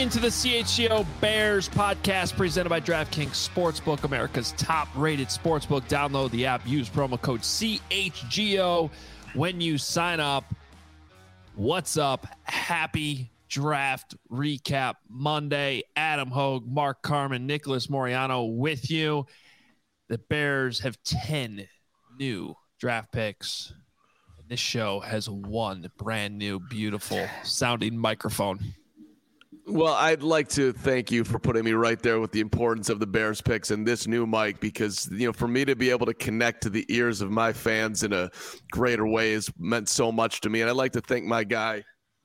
into the CHGO Bears podcast presented by DraftKings Sportsbook, America's top-rated sportsbook. Download the app. Use promo code CHGO when you sign up. What's up? Happy Draft Recap Monday. Adam Hogue, Mark Carman, Nicholas Moriano with you. The Bears have 10 new draft picks. This show has one brand new, beautiful sounding microphone. Well, I'd like to thank you for putting me right there with the importance of the Bears picks and this new mic, because, for me to be able to connect to the ears of my fans in a greater way has meant so much to me. And I'd like to thank my guy.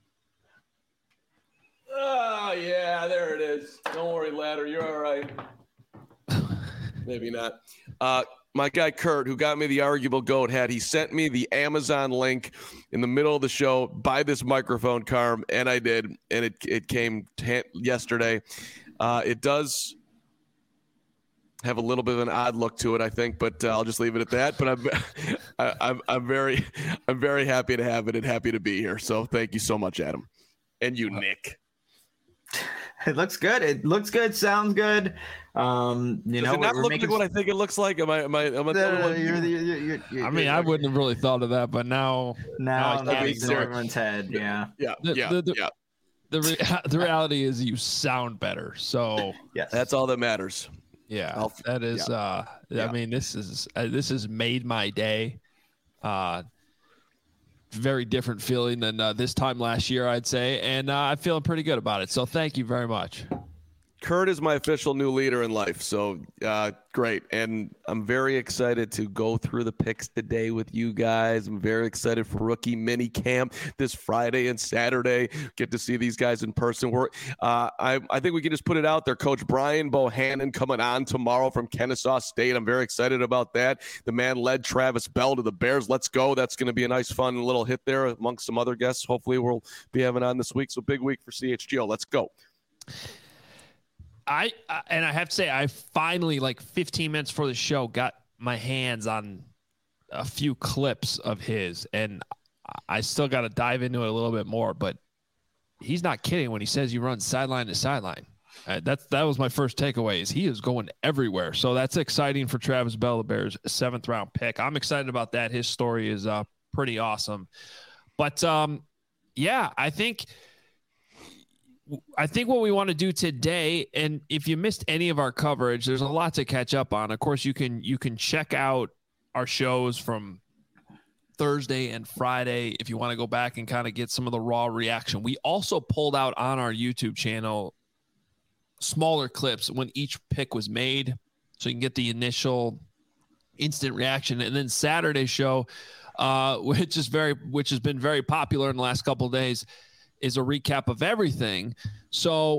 Oh, yeah, there it is. Don't worry, Ladder. You're all right. Maybe not. My guy Kurt, who got me the arguable goat hat, he sent me the Amazon link in the middle of the show. Buy this microphone, Carm, and I did, and it came yesterday. It does have a little bit of an odd look to it, I think, but I'll just leave it at that. But I'm very happy to have it and happy to be here. So thank you so much, Adam, and you, Nick. It looks good. It looks good. Sounds good. Does it not look like what I think it looks like? I mean, I wouldn't have really thought of that, but now it's in everyone's head. Yeah. The reality is you sound better. So yes, that's all that matters. Yeah, that is. I mean, this has made my day. Very different feeling than this time last year, I'd say, and I'm feeling pretty good about it. So thank you very much. Kurt is my official new leader in life, so great. And I'm very excited to go through the picks today with you guys. I'm very excited for rookie mini camp this Friday and Saturday. Get to see these guys in person. I think we can just put it out there. Coach Brian Bohannon coming on tomorrow from Kennesaw State. I'm very excited about that. The man led Travis Bell to the Bears. Let's go. That's going to be a nice, fun little hit there amongst some other guests. Hopefully we'll be having on this week. So big week for CHGO. Let's go. I have to say, I finally, like 15 minutes before the show, got my hands on a few clips of his, and I still got to dive into it a little bit more, but he's not kidding when he says you run sideline to sideline. That was my first takeaway, is he is going everywhere. So that's exciting for Travis Bell, the Bears' 7th round pick. I'm excited about that. His story is pretty awesome. But yeah, I think what we want to do today, and if you missed any of our coverage, there's a lot to catch up on. Of course, you can check out our shows from Thursday and Friday if you want to go back and kind of get some of the raw reaction. We also pulled out on our YouTube channel smaller clips when each pick was made, so you can get the initial instant reaction. And then Saturday's show, which has been very popular in the last couple of days, is a recap of everything. So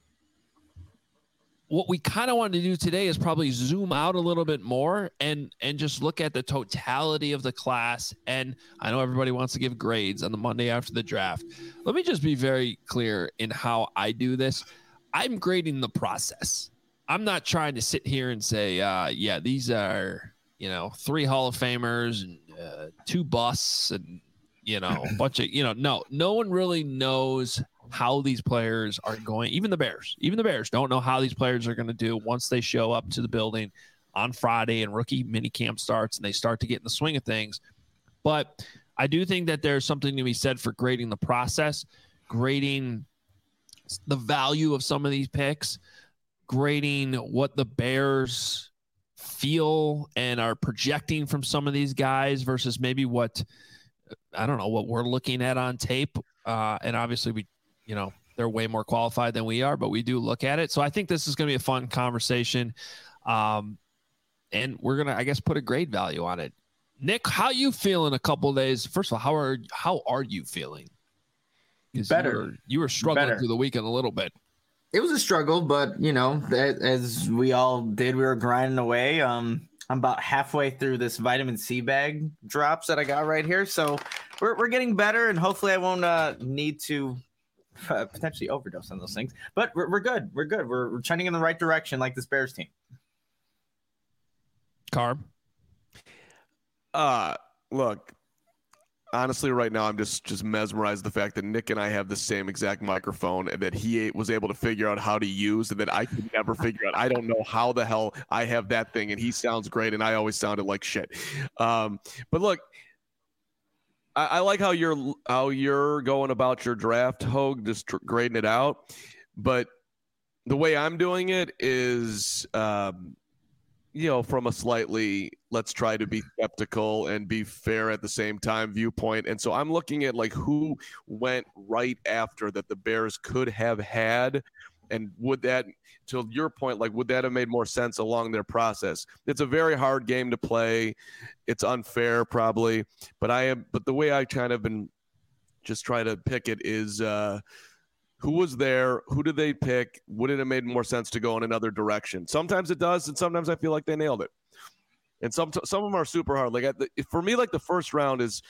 what we kind of wanted to do today is probably zoom out a little bit more and just look at the totality of the class. And I know everybody wants to give grades on the Monday after the draft. Let me just be very clear in how I do this. I'm grading the process. I'm not trying to sit here and say, these are, 3 Hall of Famers and 2 busts and, a bunch of, no one really knows how these players are going. Even the Bears don't know how these players are going to do once they show up to the building on Friday and rookie mini camp starts and they start to get in the swing of things. But I do think that there's something to be said for grading the process, grading the value of some of these picks, grading what the Bears feel and are projecting from some of these guys versus maybe what we're looking at on tape. And obviously they're way more qualified than we are, but we do look at it. So I think this is going to be a fun conversation. And we're going to, I guess, put a grade value on it. Nick, how you feeling a couple of days? First of all, how are you feeling? Better. You were struggling through the weekend a little bit. It was a struggle, but as we all did, we were grinding away. I'm about halfway through this vitamin C bag drops that I got right here. So we're getting better, and hopefully I won't need to potentially overdose on those things. But we're good. We're good. We're trending in the right direction like this Bears team. Carb? Look, honestly, right now, I'm just mesmerized the fact that Nick and I have the same exact microphone and that he was able to figure out how to use and that I could never figure out. I don't know how the hell I have that thing, and he sounds great, and I always sounded like shit. But look, I like how you're going about your draft, Hogue, just grading it out. But the way I'm doing it is, from a slightly let's try to be skeptical and be fair at the same time viewpoint. And so I'm looking at like who went right after that the Bears could have had. And would that, to your point, like, would that have made more sense along their process? It's a very hard game to play. It's unfair probably, but the way I kind of been just try to pick it is, who was there? Who did they pick? Would it have made more sense to go in another direction? Sometimes it does, and sometimes I feel like they nailed it. And some of them are super hard. Like for me, like the first round is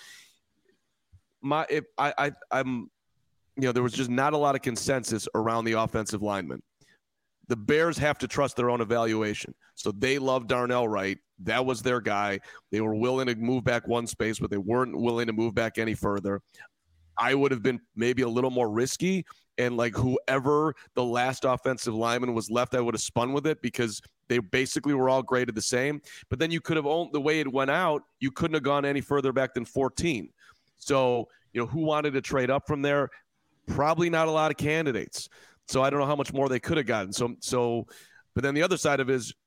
I'm there was just not a lot of consensus around the offensive linemen. The Bears have to trust their own evaluation. So they loved Darnell Wright. That was their guy. They were willing to move back one space, but they weren't willing to move back any further. I would have been maybe a little more risky. And like whoever the last offensive lineman was left, I would have spun with it because they basically were all graded the same. But then you could have owned the way it went out. You couldn't have gone any further back than 14. So, who wanted to trade up from there? Probably not a lot of candidates. So I don't know how much more they could have gotten. But then the other side of it is,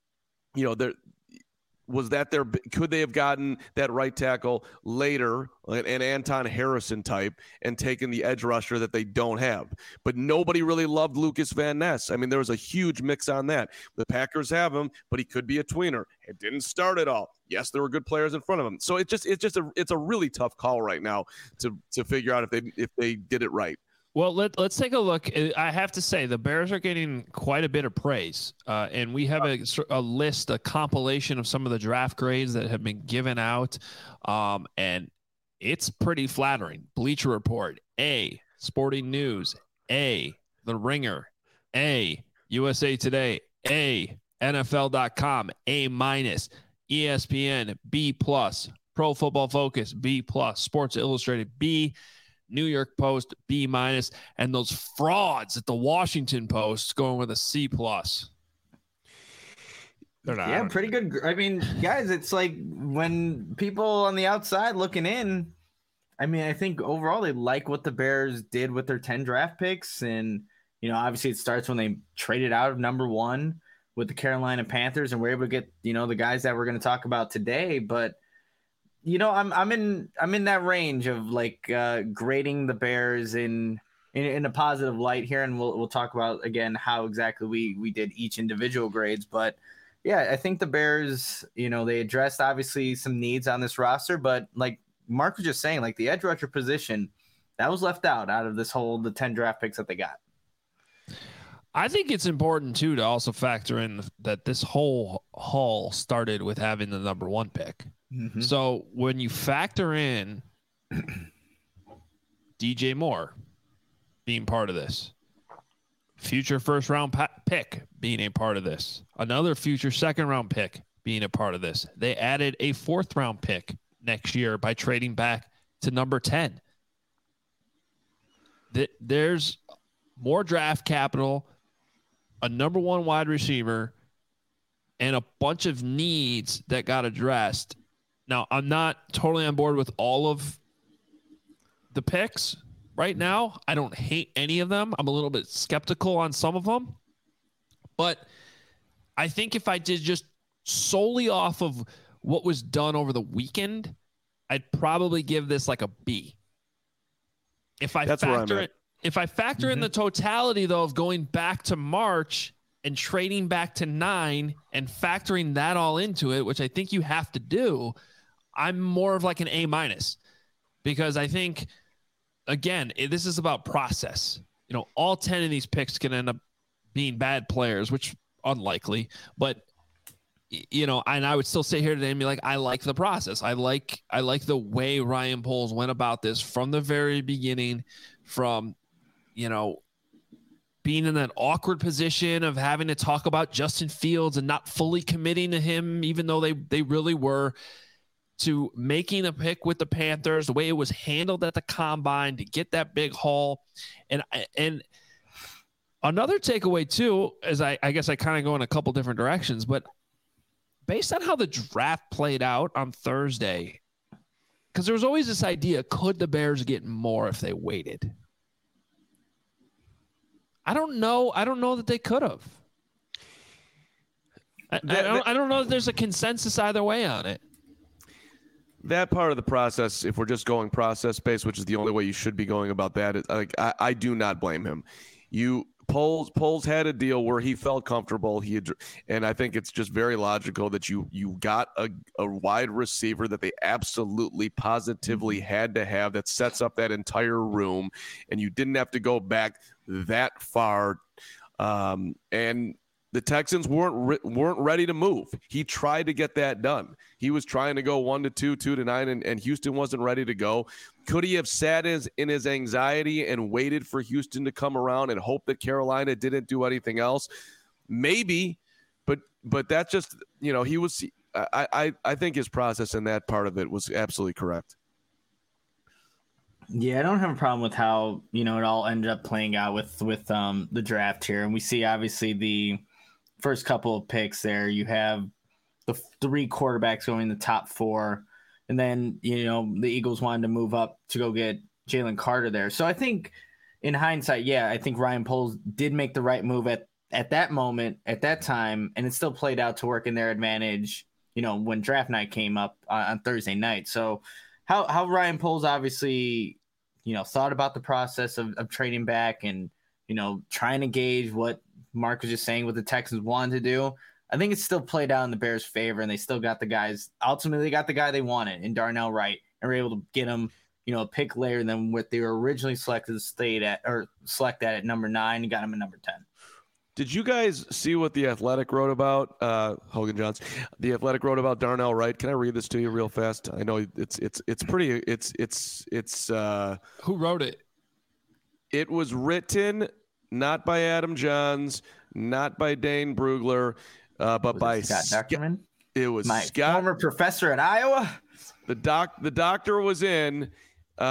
could they have gotten that right tackle later, an Anton Harrison type, and taken the edge rusher that they don't have? But nobody really loved Lucas Van Ness. I mean, there was a huge mix on that. The Packers have him, but he could be a tweener. It didn't start at all. Yes, there were good players in front of him. So it's a really tough call right now to figure out if they did it right. Well, let's take a look. I have to say the Bears are getting quite a bit of praise, and we have a list, a compilation of some of the draft grades that have been given out, and it's pretty flattering. Bleacher Report, A. Sporting News, A. The Ringer, A. USA Today, A. NFL.com, A-, ESPN, B+, Pro Football Focus, B+, Sports Illustrated, B, New York Post, B-, and those frauds at the Washington Post going with a C+. They're not. Yeah, pretty good. I mean, guys, it's like when people on the outside looking in, I mean, I think overall they like what the Bears did with their 10 draft picks. And, obviously it starts when they traded out of number 1 with the Carolina Panthers and we're able to get, the guys that we're going to talk about today. But I'm in that range of like grading the Bears in a positive light here, and we'll talk about again how exactly we did each individual grades. But yeah, I think the Bears, they addressed obviously some needs on this roster, but like Mark was just saying, like the edge rusher position that was left out of the 10 draft picks that they got. I think it's important too to also factor in that this whole haul started with having the number 1 pick. Mm-hmm. So when you factor in DJ Moore being part of this, future first-round pick being a part of this, another future second-round pick being a part of this, they added a 4th-round pick next year by trading back to number 10. There's more draft capital, a number 1 wide receiver, and a bunch of needs that got addressed. Now, I'm not totally on board with all of the picks right now. I don't hate any of them. I'm a little bit skeptical on some of them. But I think if I did just solely off of what was done over the weekend, I'd probably give this like a B. If I factor in the totality, though, of going back to March and trading back to 9 and factoring that all into it, which I think you have to do, I'm more of like an A-, because I think, again, this is about process. All 10 of these picks can end up being bad players, which unlikely, but and I would still sit here today and be like, I like the process. I like the way Ryan Poles went about this from the very beginning, from, being in that awkward position of having to talk about Justin Fields and not fully committing to him, even though they really were. to making a pick with the Panthers, the way it was handled at the combine to get that big haul. And another takeaway too, is I guess I kind of go in a couple different directions, but based on how the draft played out on Thursday, because there was always this idea, could the Bears get more if they waited? I don't know. I don't know that they could have. I don't know that there's a consensus either way on it. That part of the process, if we're just going process-based, which is the only way you should be going about that, I do not blame him. Poles had a deal where he felt comfortable. And I think it's just very logical that you got a wide receiver that they absolutely positively had to have that sets up that entire room, and you didn't have to go back that far. And the Texans weren't ready to move. He tried to get that done. He was trying to go 1-2, 2-9, and Houston wasn't ready to go. Could he have sat in his anxiety and waited for Houston to come around and hope that Carolina didn't do anything else? Maybe, but that's just, he was. I think his process in that part of it was absolutely correct. Yeah, I don't have a problem with how it all ended up playing out with the draft here, and we see obviously the first couple of picks there. You have the 3 quarterbacks going in the top 4. And then, the Eagles wanted to move up to go get Jalen Carter there. So I think in hindsight, I think Ryan Poles did make the right move at that moment, at that time. And it still played out to work in their advantage, when draft night came up on Thursday night. So how Ryan Poles obviously, thought about the process of trading back and, trying to gauge what Mark was just saying what the Texans wanted to do. I think it's still played out in the Bears' favor, and they still got the guys. Ultimately, got the guy they wanted in Darnell Wright, and were able to get him, a pick later than what they were originally selected at number 9, and got him at number 10. Did you guys see what The Athletic wrote about Hogan Johns? The Athletic wrote about Darnell Wright. Can I read this to you real fast? I know it's pretty. It's. Who wrote it? It was written not by Adam Johns, not by Dane Brugler. But by Scott Duckerman. It was my Scott, former professor at Iowa. The doctor was in. He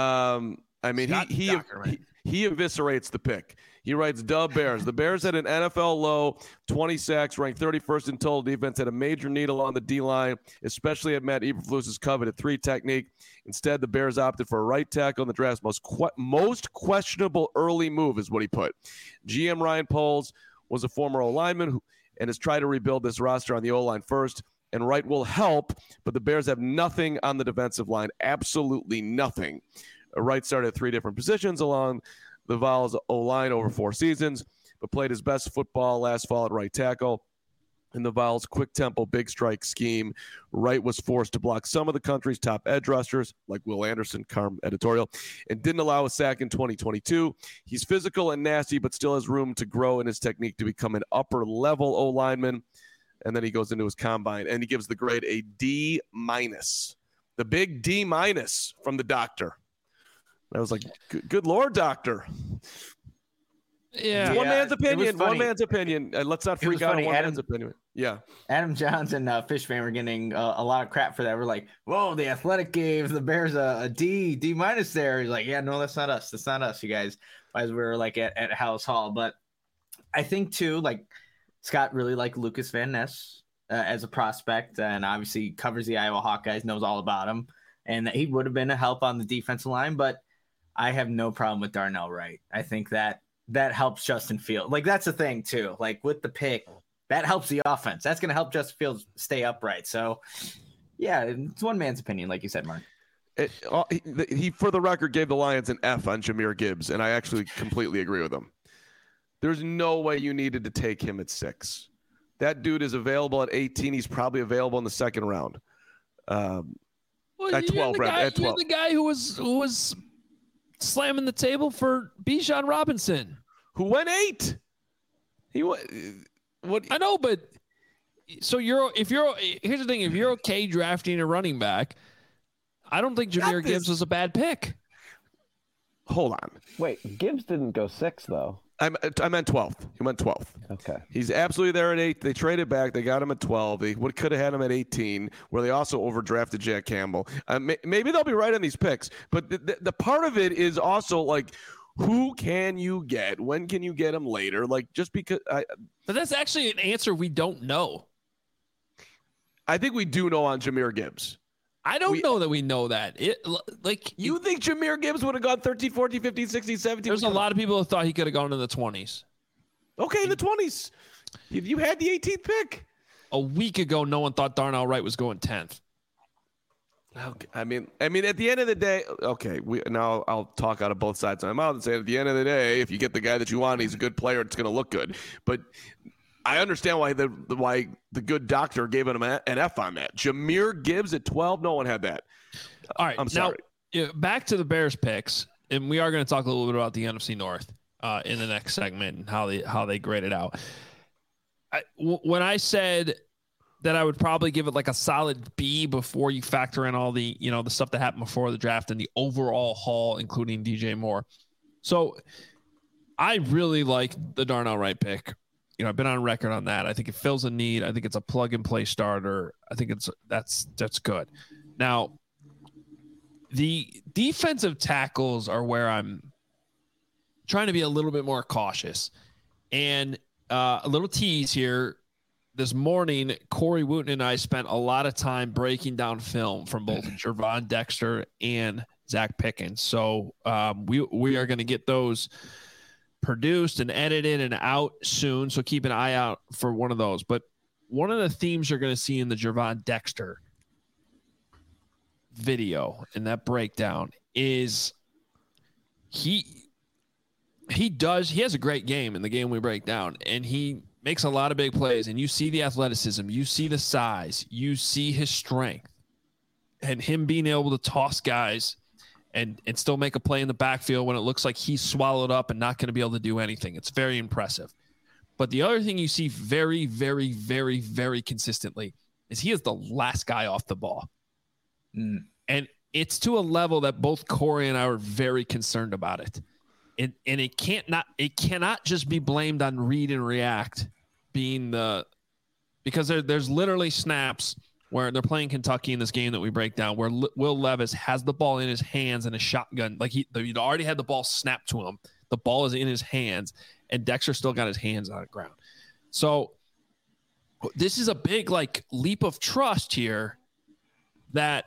eviscerates the pick. He writes, "Dub Bears. The Bears had an NFL low, 20 sacks, ranked 31st in total defense, had a major need along the D-line, especially at Matt Eberflus's coveted 3 technique. Instead, the Bears opted for a right tackle in the draft's most questionable early move," is what he put. GM Ryan Poles was a former O-lineman and has tried to rebuild this roster on the O-line first, and Wright will help, but the Bears have nothing on the defensive line, absolutely nothing. Wright started at 3 different positions along the Vols O-line over 4 seasons, but played his best football last fall at right tackle. In the Vols' quick tempo, big strike scheme, Wright was forced to block some of the country's top edge rushers, like Will Anderson, Carm editorial, and didn't allow a sack in 2022. He's physical and nasty, but still has room to grow in his technique to become an upper-level O-lineman. And then he goes into his combine, and he gives the grade a D-. The big D- from the doctor. I was like, good Lord, doctor. Yeah. It's one man's opinion. One man's opinion. Let's not freak out on one man's opinion. Yeah. Adam Johns and Fishman were getting a lot of crap for that. We're like, whoa, the Athletic gave the Bears a D- there. He's like, yeah, no, that's not us. That's not us, you guys. As we were like at House Hall. But I think too, like Scott really liked Lucas Van Ness as a prospect, and obviously covers the Iowa Hawkeyes, knows all about him, and that he would have been a help on the defensive line. But I have no problem with Darnell Wright. I think that helps Justin Fields. Like, that's the thing too. Like with the pick, that helps the offense. That's going to help Justin Fields stay upright. So yeah, it's one man's opinion, like you said, Mark. He, for the record, gave the Lions an F on Jahmyr Gibbs, and I actually completely agree with him. There's no way you needed to take him at 6. That dude is available at 18. He's probably available in the second round. At 12, Brad. You're the guy who was slamming the table for Bijan Robinson, who went 8. What? I know, but so here's the thing: if you're okay drafting a running back, I don't think Jahmyr Gibbs was a bad pick. Hold on. Wait, Gibbs didn't go 6 though. I meant 12th. He went 12th. Okay. He's absolutely there at 8. They traded back. They got him at 12. They could have had him at 18, where they also overdrafted Jack Campbell. Maybe they'll be right on these picks. But the part of it is also like, who can you get? When can you get him later? Like, just because. But that's actually an answer we don't know. I think we do know on Jahmyr Gibbs. I don't know that we know that. You think Jahmyr Gibbs would have gone 13, 14, 15, 16, 17? There's a lot of people who thought he could have gone in the 20s. Okay, in the 20s. You had the 18th pick. A week ago, no one thought Darnell Wright was going 10th. Okay. I mean, at the end of the day, okay, now I'll talk out of both sides of my mouth and say at the end of the day, if you get the guy that you want, he's a good player, it's going to look good. But I understand why the good doctor gave him an F on that. Jahmyr Gibbs at 12, no one had that. All right, I'm sorry. Now, back to the Bears picks, and we are going to talk a little bit about the NFC North in the next segment and how they grade it out. When I said that I would probably give it like a solid B before you factor in all the the stuff that happened before the draft and the overall haul, including DJ Moore. So I really like the Darnell Wright pick. I've been on record on that. I think it fills a need. I think it's a plug and play starter. I think that's good. Now, the defensive tackles are where I'm trying to be a little bit more cautious. And a little tease here. This morning, Corey Wooten and I spent a lot of time breaking down film from both Gervon Dexter and Zach Pickens. So we are going to get those produced and edited and out soon. So keep an eye out for one of those. But one of the themes you're going to see in the Gervon Dexter video and that breakdown is he has a great game in the game we break down, and he makes a lot of big plays, and you see the athleticism, you see the size, you see his strength, and him being able to toss guys and still make a play in the backfield when it looks like he's swallowed up and not going to be able to do anything. It's very impressive. But the other thing you see very, very, very, very consistently is he is the last guy off the ball. And it's to a level that both Corey and I are very concerned about it. And it cannot just be blamed on read and react because there's literally snaps where they're playing Kentucky in this game that we break down, where Will Levis has the ball in his hands and a shotgun. Like he'd already had the ball snapped to him. The ball is in his hands, and Dexter still got his hands on the ground. So this is a big leap of trust here that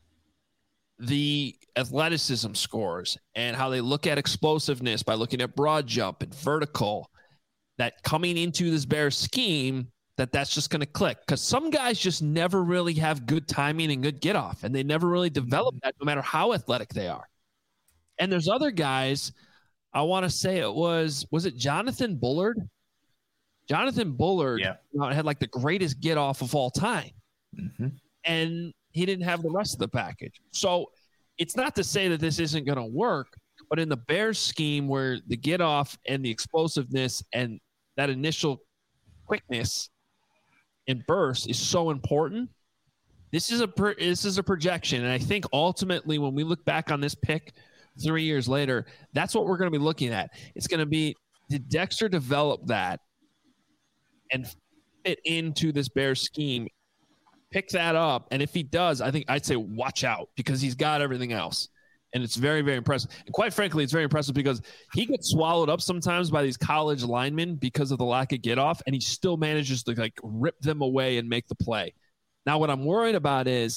the athleticism scores and how they look at explosiveness by looking at broad jump and vertical, that coming into this Bears scheme, that's just going to click, because some guys just never really have good timing and good get off, and they never really develop that no matter how athletic they are. And there's other guys, I want to say was it Jonathan Bullard? Jonathan Bullard had the greatest get off of all time. Mm-hmm. And he didn't have the rest of the package. So it's not to say that this isn't going to work, but in the Bears scheme where the get off and the explosiveness and that initial quickness and burst is so important, this is a projection. And I think ultimately when we look back on this pick 3 years later, that's what we're going to be looking at. It's going to be, did Dexter develop that and fit into this Bears scheme? Pick that up, and if he does, I think I'd say watch out, because he's got everything else, and it's very, very impressive. And quite frankly, it's very impressive because he gets swallowed up sometimes by these college linemen because of the lack of get off, and he still manages to rip them away and make the play. Now, what I'm worried about is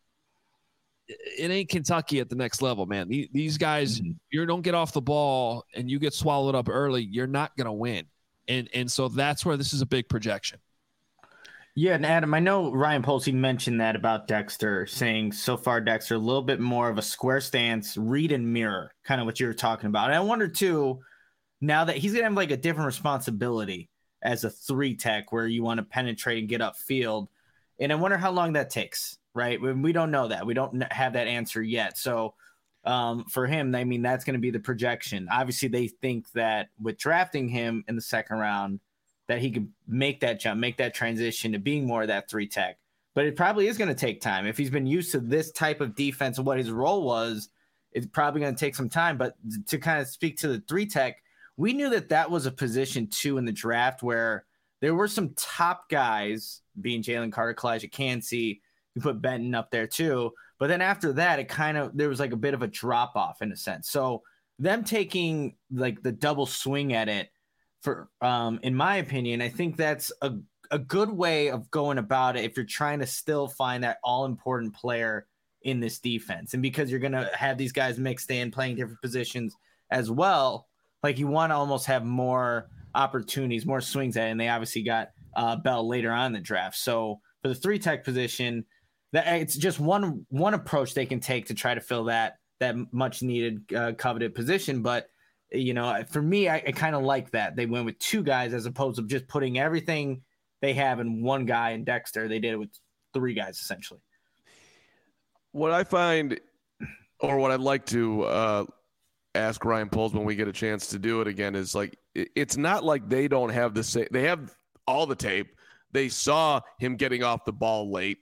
it ain't Kentucky at the next level, man. These guys, you don't get off the ball and you get swallowed up early, you're not going to win, and so that's where this is a big projection. Yeah, and Adam, I know Ryan Polsey mentioned that about Dexter, saying so far Dexter a little bit more of a square stance, read and mirror, kind of what you were talking about. And I wonder too, now that he's gonna have a different responsibility as a 3 tech, where you want to penetrate and get upfield, and I wonder how long that takes. Right? We don't know that. We don't have that answer yet. So for him, I mean, that's going to be the projection. Obviously, they think that with drafting him in the second round, that he could make that jump, make that transition to being more of that 3 tech. But it probably is going to take time. If he's been used to this type of defense and what his role was, it's probably going to take some time. But to kind of speak to the 3 tech, we knew that was a position too in the draft where there were some top guys, being Jalen Carter, Kalijah Kancey. You put Benton up there too. But then after that, there was like a bit of a drop off in a sense. So them taking like the double swing at it for, in my opinion, I think that's a good way of going about it if you're trying to still find that all important player in this defense. And because you're going to have these guys mixed in playing different positions as well, like you want to almost have more opportunities, more swings at it. And they obviously got Bell later on in the draft. So for the 3 tech position, that it's just one approach they can take to try to fill that much needed coveted position. But for me, I kind of like that they went with 2 guys as opposed to just putting everything they have in one guy in Dexter. They did it with 3 guys essentially. What I find, or what I'd like to ask Ryan Poles when we get a chance to do it again, is like, it's not like they don't have the same. They have all the tape. They saw him getting off the ball late,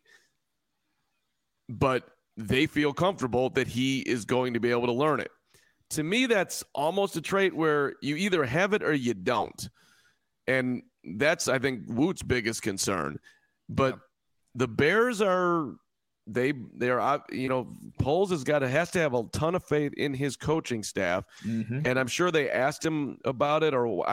but they feel comfortable that he is going to be able to learn it. To me, that's almost a trait where you either have it or you don't. And that's, I think, Woot's biggest concern. But the Bears Poles has to have a ton of faith in his coaching staff. Mm-hmm. And I'm sure they asked him about it, or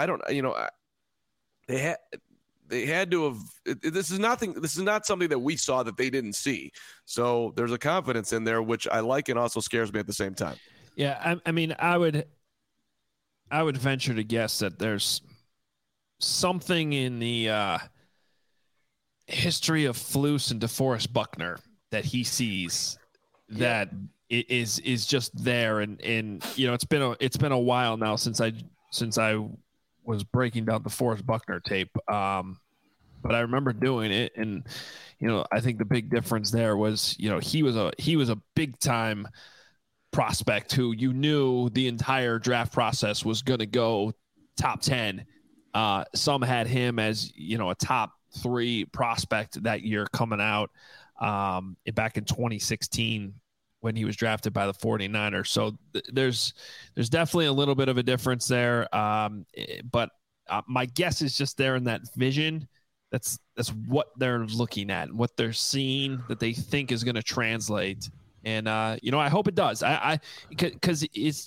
they had to have. This is not something that we saw that they didn't see. So there's a confidence in there, which I like and also scares me at the same time. Yeah, I mean, I would venture to guess that there's something in the history of Flus and DeForest Buckner that he sees that is just there, and it's been a while now since I was breaking down the Forrest Buckner tape. But I remember doing it, and I think the big difference there was he was a big time prospect who knew the entire draft process was going to go top 10. Some had him as a top 3 prospect that year coming out back in 2016 when he was drafted by the 49ers. So there's definitely a little bit of a difference there. But my guess is just there in that vision. That's what they're looking at, what they're seeing that they think is going to translate. And, I hope it does. Because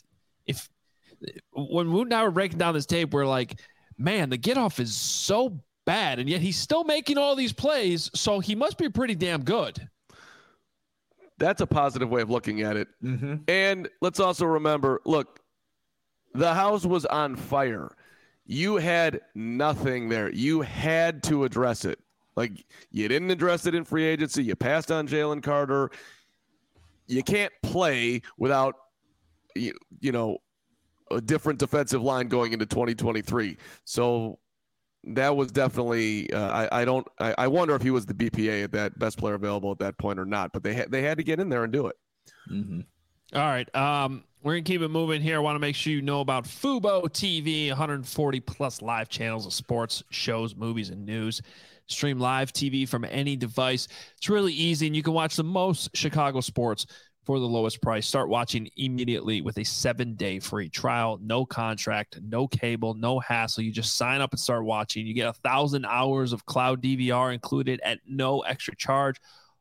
when Woot and I were breaking down this tape, we're like, man, the get off is so bad, and yet he's still making all these plays, so he must be pretty damn good. That's a positive way of looking at it. Mm-hmm. And let's also remember, look, the house was on fire. You had nothing there. You had to address it. Like, you didn't address it in free agency. You passed on Jalen Carter. You can't play without, a different defensive line going into 2023. So that was definitely I wonder if he was the BPA at that best player available at that point or not, but they had to get in there and do it. Mm-hmm. All right. We're going to keep it moving here. I want to make sure you know about Fubo TV, 140 plus live channels of sports, shows, movies, and news. Stream live TV from any device. It's really easy, and you can watch the most Chicago sports for the lowest price. Start watching immediately with a 7-day free trial. No contract, no cable, no hassle. You just sign up and start watching. You get 1,000 hours of cloud DVR included at no extra charge.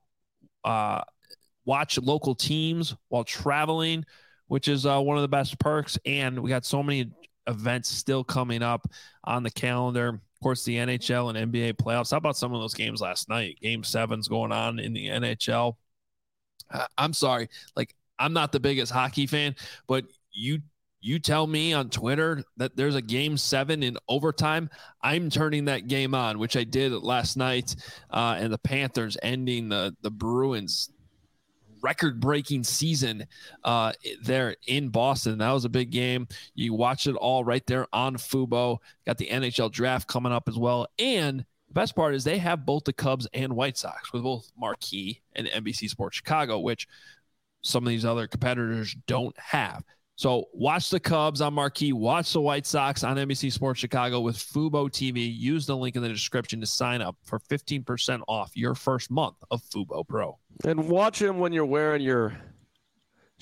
Watch local teams while traveling, which is one of the best perks. And we got so many events still coming up on the calendar. Of course, the NHL and NBA playoffs. How about some of those games last night? Game 7's going on in the NHL. I'm sorry, like, I'm not the biggest hockey fan, but you tell me on Twitter that there's a game 7 in overtime, I'm turning that game on, which I did last night, and the Panthers ending the Bruins record-breaking season there in Boston. That was a big game. You watch it all right there on Fubo. Got the NHL draft coming up as well. And the best part is they have both the Cubs and White Sox with both Marquee and NBC Sports Chicago, which some of these other competitors don't have. So watch the Cubs on Marquee, watch the White Sox on NBC Sports Chicago with Fubo TV. Use the link in the description to sign up for 15% off your first month of Fubo Pro. And watch him when you're wearing your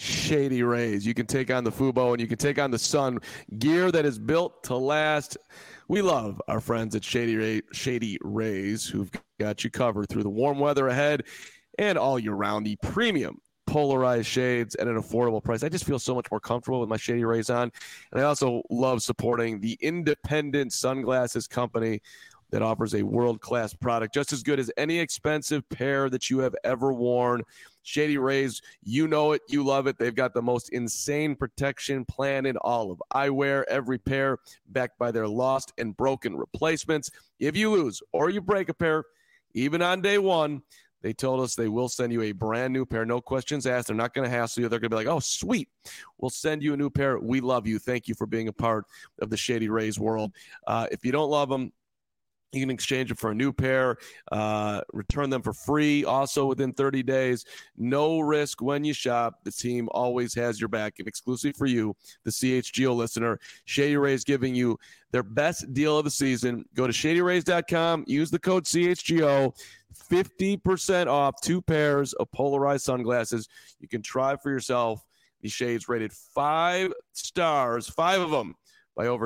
Shady Rays. You can take on the Fubo and you can take on the sun. Gear that is built to last. We love our friends at Shady Rays who've got you covered through the warm weather ahead and all year round. The premium polarized shades at an affordable price. I just feel so much more comfortable with my Shady Rays on. And I also love supporting the independent sunglasses company that offers a world-class product just as good as any expensive pair that you have ever worn. Shady Rays, you know it, you love it. They've got the most insane protection plan in all of eyewear. Every pair backed by their lost and broken replacements. If you lose or you break a pair, even on day one, they told us they will send you a brand new pair. No questions asked. They're not going to hassle you. They're going to be like, oh, sweet. We'll send you a new pair. We love you. Thank you for being a part of the Shady Rays world. If you don't love them, you can exchange them for a new pair, return them for free also within 30 days. No risk when you shop. The team always has your back. And exclusive for you, the CHGO listener, Shady Rays giving you their best deal of the season. Go to shadyrays.com. Use the code CHGO. 50% off 2 pairs of polarized sunglasses. You can try for yourself. These shades rated 5 stars, 5 of them, by over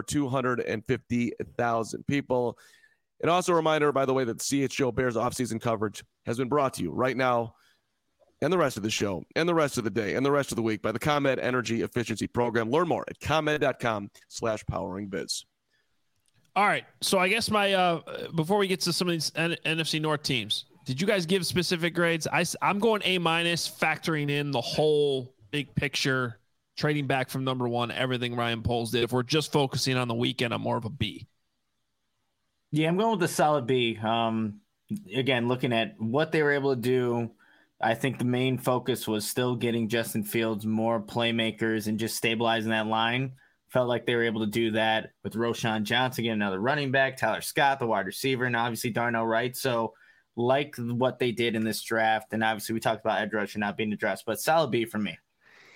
250,000 people. And also a reminder, by the way, that CHGO Bears offseason coverage has been brought to you right now and the rest of the show and the rest of the day and the rest of the week by the ComEd Energy Efficiency Program. Learn more at ComEd.com/poweringbiz. All right. So I guess my before we get to some of these NFC North teams, did you guys give specific grades? I'm going A-, factoring in the whole big picture, trading back from number one, everything Ryan Poles did. If we're just focusing on the weekend, I'm more of a B. Yeah, I'm going with a solid B. Again, looking at what they were able to do, I think the main focus was still getting Justin Fields more playmakers and just stabilizing that line. Felt like they were able to do that with Roschon Johnson, getting another running back, Tyler Scott, the wide receiver, and obviously Darnell Wright. So like what they did in this draft, and obviously we talked about edge rusher not being addressed, but solid B for me.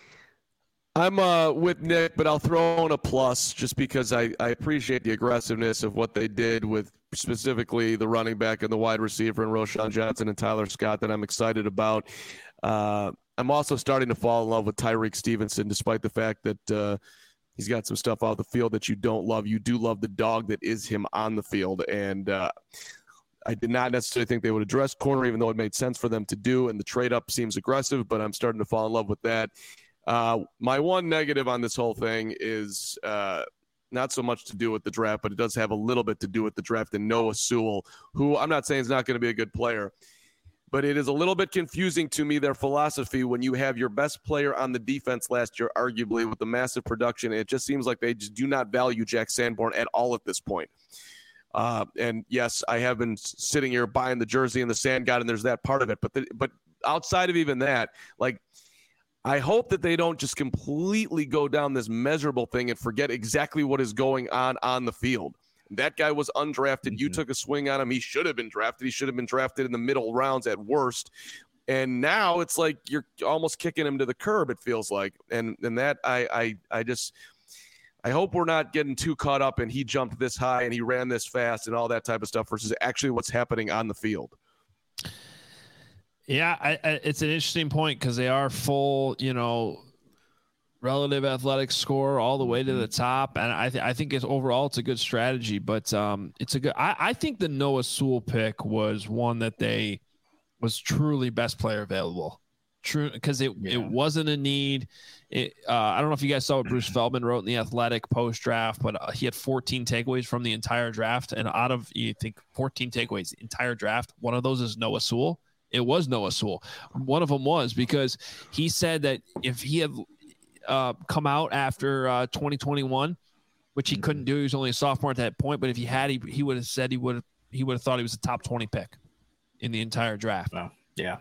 I'm with Nick, but I'll throw in a plus just because I appreciate the aggressiveness of what they did with specifically the running back and the wide receiver and Roschon Johnson and Tyler Scott that I'm excited about. I'm also starting to fall in love with Tyreek Stevenson, despite the fact that he's got some stuff off the field that you don't love. You do love the dog that is him on the field. And I did not necessarily think they would address corner, even though it made sense for them to do. And the trade up seems aggressive, but I'm starting to fall in love with that. My one negative on this whole thing is not so much to do with the draft, but it does have a little bit to do with the draft and Noah Sewell, who I'm not saying is not going to be a good player, but it is a little bit confusing to me, their philosophy, when you have your best player on the defense last year, arguably with the massive production. It just seems like they just do not value Jack Sanborn at all at this point. And yes, I have been sitting here buying the jersey and the Sand God, and there's that part of it. But outside of even that, like, I hope that they don't just completely go down this measurable thing and forget exactly what is going on the field. That guy was undrafted. You took a swing on him. He should have been drafted. He should have been drafted in the middle rounds at worst. And now it's like you're almost kicking him to the curb, it feels like. And that I hope we're not getting too caught up and he jumped this high and he ran this fast and all that type of stuff versus actually what's happening on the field. Yeah, it's an interesting point because they are full, relative athletic score all the way to the top, and I think it's overall it's a good strategy. But it's a good. I think the Noah Sewell pick was one that they was truly best player available. True, because it wasn't a need. I don't know if you guys saw what Bruce Feldman wrote in the Athletic post draft, but he had 14 takeaways from the entire draft, and out of 14 takeaways the entire draft, one of those is Noah Sewell. It was Noah Sewell. One of them was because he said that if he had come out after 2021, which he couldn't do, he was only a sophomore at that point. But if he had, he would have said he would have thought he was a top 20 pick in the entire draft. Wow. Yeah.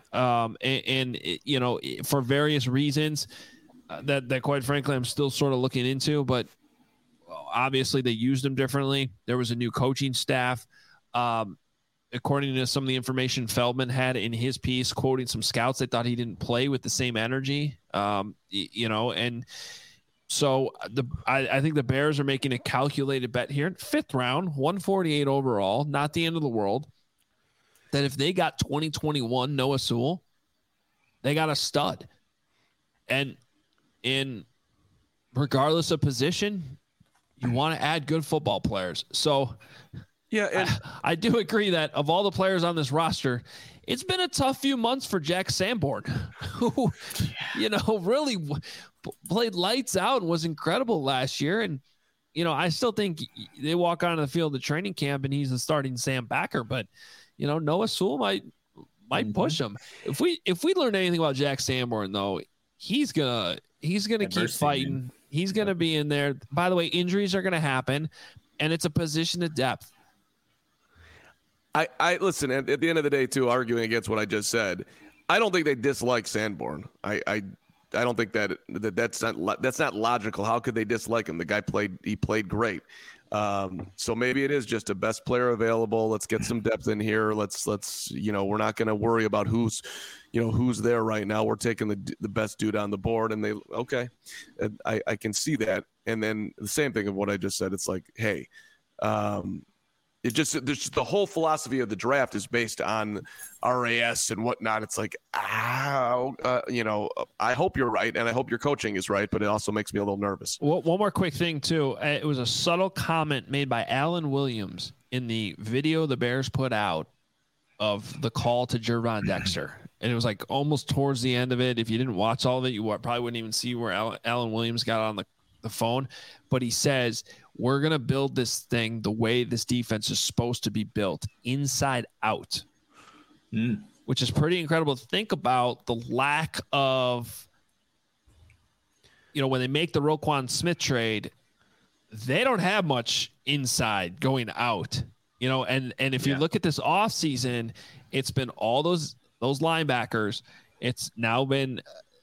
For various reasons that quite frankly I'm still sort of looking into, but obviously they used him differently. There was a new coaching staff. According to some of the information Feldman had in his piece, quoting some scouts, they thought he didn't play with the same energy, and so I think the Bears are making a calculated bet here. 5th round, 148 overall, not the end of the world, that if they got 2021 Noah Sewell, they got a stud. And in regardless of position, you want to add good football players. So yeah, and I do agree that of all the players on this roster, it's been a tough few months for Jack Sanborn, who, really played lights out and was incredible last year. And, I still think they walk onto the field of training camp and he's the starting Sam Backer, but, Noah Sewell might push him. If we learn anything about Jack Sanborn, though, he's gonna keep fighting. Man. He's gonna be in there. By the way, injuries are gonna happen, and it's a position of depth. I listen, at the end of the day, too, arguing against what I just said, I don't think they dislike Sanborn. I don't think that's not logical. How could they dislike him? The guy played great. So maybe it is just a best player available. Let's get some depth in here. Let's we're not going to worry about who's there right now. We're taking the best dude on the board, and I can see that. And then the same thing of what I just said. It's like, hey, there's just the whole philosophy of the draft is based on RAS and whatnot. It's like, I hope you're right, and I hope your coaching is right, but it also makes me a little nervous. Well, one more quick thing, too. It was a subtle comment made by Alan Williams in the video the Bears put out of the call to Gervon Dexter. And it was like almost towards the end of it. If you didn't watch all of it, you probably wouldn't even see where Alan Williams got on the phone. But he says, we're going to build this thing the way this defense is supposed to be built, inside out, which is pretty incredible to think about. The lack of, when they make the Roquan Smith trade, they don't have much inside going out, and if you look at this offseason, it's been all those linebackers. It's now been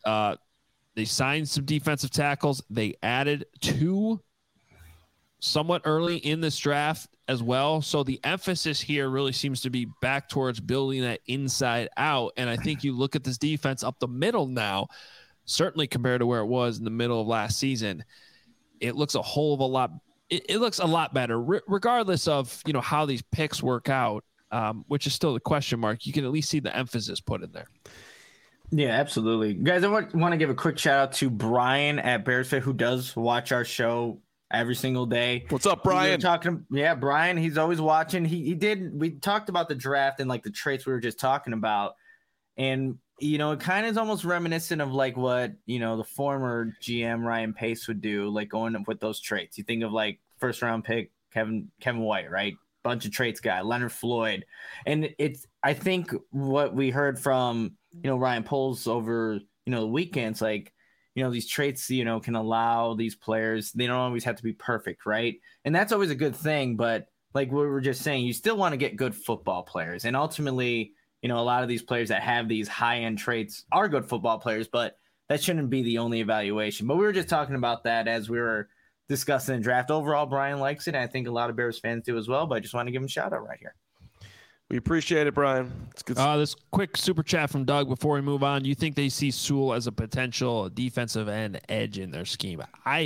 they signed some defensive tackles. They added 2 somewhat early in this draft as well. So the emphasis here really seems to be back towards building that inside out. And I think you look at this defense up the middle now, certainly compared to where it was in the middle of last season, it looks a whole of a lot. It looks a lot better, regardless of, how these picks work out, which is still the question mark. You can at least see the emphasis put in there. Yeah, absolutely. Guys, I want to give a quick shout out to Brian at BearsFit, who does watch our show every single day. What's up, Brian? Brian, he's always watching. We talked about the draft and like the traits we were just talking about. And, it kind of is almost reminiscent of like what, the former GM Ryan Pace would do, like going up with those traits. You think of like first round pick, Kevin White, right? Bunch of traits guy, Leonard Floyd. And I think what we heard from, Ryan Poles over, the weekends, like, these traits, can allow these players, they don't always have to be perfect, right? And that's always a good thing. But like we were just saying, you still want to get good football players. And ultimately, a lot of these players that have these high-end traits are good football players, but that shouldn't be the only evaluation. But we were just talking about that as we were discussing the draft. Overall, Brian likes it, and I think a lot of Bears fans do as well, but I just want to give him a shout-out right here. We appreciate it, Brian. It's good. This quick super chat from Doug before we move on. You think they see Sewell as a potential defensive end edge in their scheme?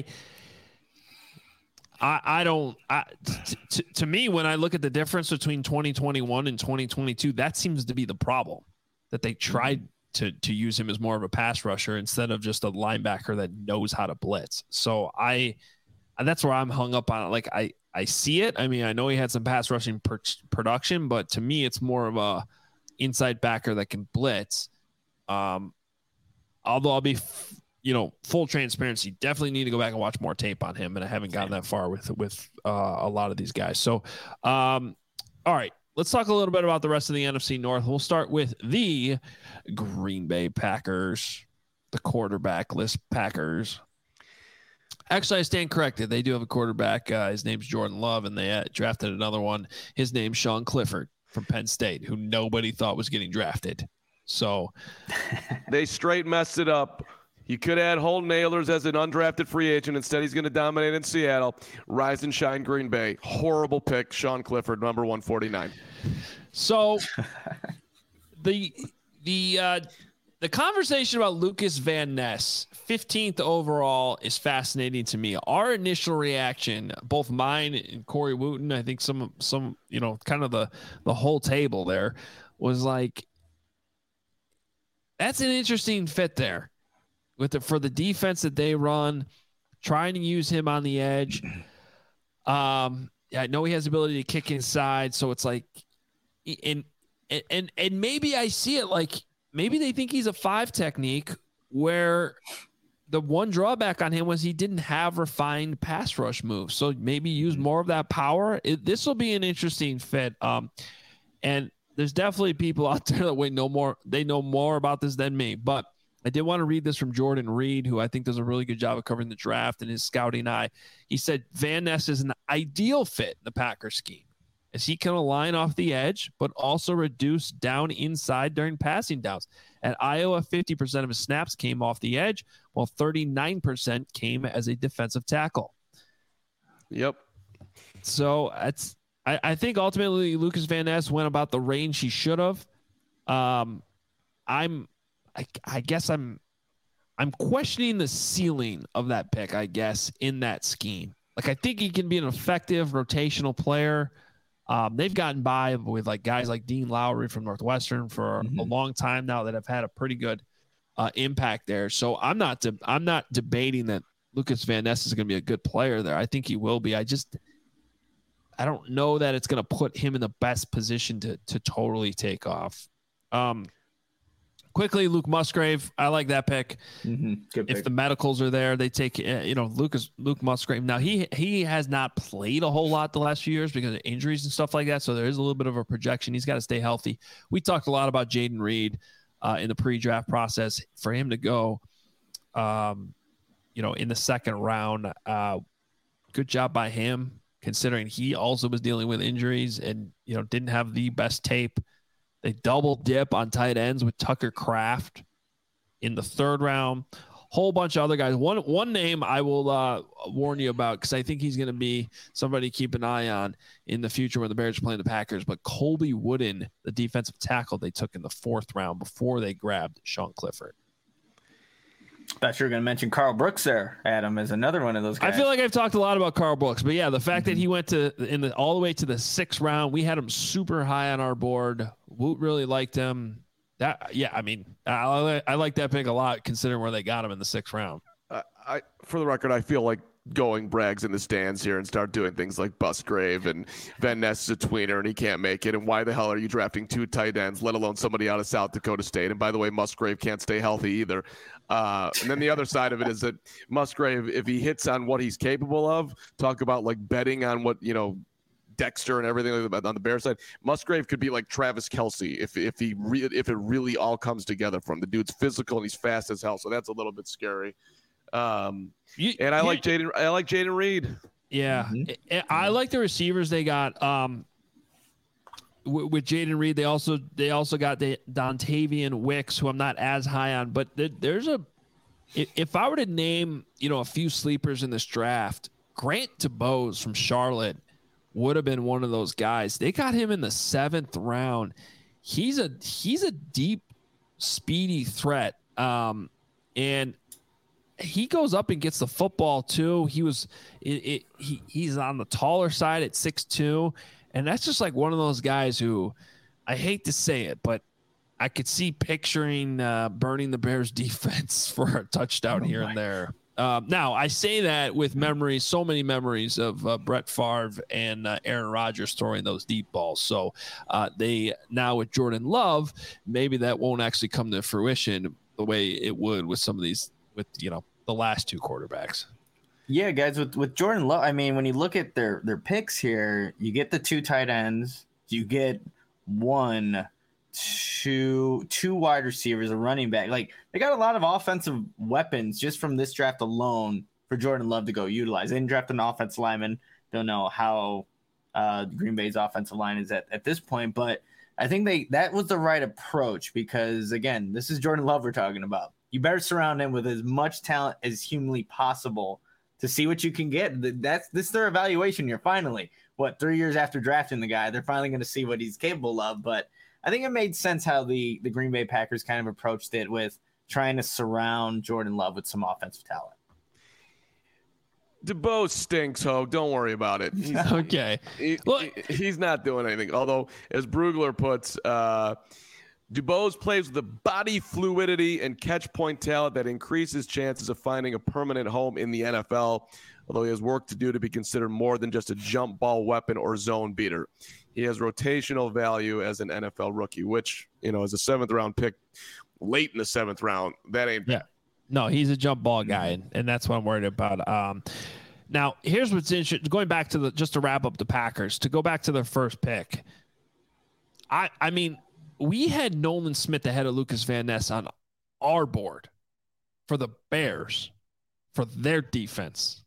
I don't. To me, when I look at the difference between 2021 and 2022, that seems to be the problem. That they tried to use him as more of a pass rusher instead of just a linebacker that knows how to blitz. So that's where I'm hung up on it. Like I see it. I mean, I know he had some pass rushing production, but to me, it's more of a inside backer that can blitz. Although I'll be, full transparency, definitely need to go back and watch more tape on him, and I haven't gotten that far with a lot of these guys. So, all right, let's talk a little bit about the rest of the NFC North. We'll start with the Green Bay Packers, the quarterback-less Packers. Actually, I stand corrected. They do have a quarterback. His name's Jordan Love, and they drafted another one. His name's Sean Clifford from Penn State, who nobody thought was getting drafted. So they straight messed it up. You could add Holton Ahlers as an undrafted free agent. Instead, he's going to dominate in Seattle. Rise and shine, Green Bay. Horrible pick, Sean Clifford, number 149. So the conversation about Lucas Van Ness, 15th overall, is fascinating to me. Our initial reaction, both mine and Corey Wooten, I think some kind of the whole table there, was like, that's an interesting fit there. for the defense that they run, trying to use him on the edge. I know he has the ability to kick inside, so it's like, and maybe I see it like maybe they think he's a 5 technique, where the one drawback on him was he didn't have refined pass rush moves. So maybe use more of that power. This will be an interesting fit. And there's definitely people out there that they know more about this than me. But I did want to read this from Jordan Reed, who I think does a really good job of covering the draft and his scouting eye. He said Van Ness is an ideal fit in the Packers scheme, as he can align off the edge, but also reduce down inside during passing downs. At Iowa, 50% of his snaps came off the edge, while 39% came as a defensive tackle. Yep. So I think ultimately Lucas Van Ness went about the range he should have. I guess I'm questioning the ceiling of that pick, I guess, in that scheme. Like, I think he can be an effective rotational player. They've gotten by with like guys like Dean Lowry from Northwestern for a long time now that have had a pretty good impact there. So I'm not debating that Lucas Van Ness is going to be a good player there. I think he will be. I don't know that it's going to put him in the best position to totally take off. Quickly, Luke Musgrave. I like that pick. Good pick. If the medicals are there, they take Luke Musgrave. Now he has not played a whole lot the last few years because of injuries and stuff like that. So there is a little bit of a projection. He's got to stay healthy. We talked a lot about Jayden Reed in the pre-draft process. For him to go, in the second round, good job by him, considering he also was dealing with injuries and didn't have the best tape. They double dip on tight ends with Tucker Kraft in the third round. Whole bunch of other guys. One name I will warn you about, because I think he's going to be somebody to keep an eye on in the future when the Bears are playing the Packers. But Colby Wooden, the defensive tackle they took in the 4th round before they grabbed Sean Clifford. Thought you were going to mention Carl Brooks there, Adam, as another one of those guys. I feel like I've talked a lot about Carl Brooks, but yeah, the fact that he went all the way to the 6th round, we had him super high on our board. Woot really liked him. I like that pick a lot, considering where they got him in the 6th round. For the record, I feel like going Braggs in the stands here and start doing things like Musgrave and Van Ness is a tweener and he can't make it. And why the hell are you drafting 2 tight ends, let alone somebody out of South Dakota State? And by the way, Musgrave can't stay healthy either. And then the other side of it is that Musgrave, if he hits on what he's capable of, talk about like betting on what, Dexter and everything on the Bears side, Musgrave could be like Travis Kelce if it really all comes together for him. The dude's physical and he's fast as hell, so that's a little bit scary. I like Jayden Reed. Yeah, I like the receivers they got. With Jayden Reed, they also got the Dontavian Wicks, who I'm not as high on. But if I were to name a few sleepers in this draft, Grant DuBose from Charlotte would have been one of those guys. They got him in the 7th round. He's a deep, speedy threat, and he goes up and gets the football too. He's on the taller side at 6'2", and that's just like one of those guys who, I hate to say it, but I could see picturing burning the Bears defense for a touchdown here and there. Now, I say that with memories, so many memories of Brett Favre and Aaron Rodgers throwing those deep balls. So they now with Jordan Love, maybe that won't actually come to fruition the way it would with some of these, with the last 2 quarterbacks. Yeah, guys, with Jordan Love, I mean, when you look at their picks here, you get the 2 tight ends, you get 2 wide receivers, a running back. Like, they got a lot of offensive weapons just from this draft alone for Jordan Love to go utilize. They didn't draft an offensive lineman. Don't know how Green Bay's offensive line is at this point, but I think that was the right approach because, again, this is Jordan Love we're talking about. You better surround him with as much talent as humanly possible to see what you can get. This is their evaluation here. Finally, 3 years after drafting the guy, they're finally going to see what he's capable of. But I think it made sense how the Green Bay Packers kind of approached it with trying to surround Jordan Love with some offensive talent. DuBose stinks, Hogue. Don't worry about it. Okay. He's not doing anything. Although, as Brugler puts, Dubose plays with the body fluidity and catch point talent that increases chances of finding a permanent home in the NFL, although he has work to do to be considered more than just a jump ball weapon or zone beater. He has rotational value as an NFL rookie, which, as a 7th-round pick late in the 7th round, that ain't bad. Yeah. No, he's a jump ball guy, and that's what I'm worried about. Now, here's what's interesting. Going back to just to wrap up the Packers, to go back to their first pick, I mean, we had Nolan Smith ahead of Lucas Van Ness on our board for the Bears for their defense.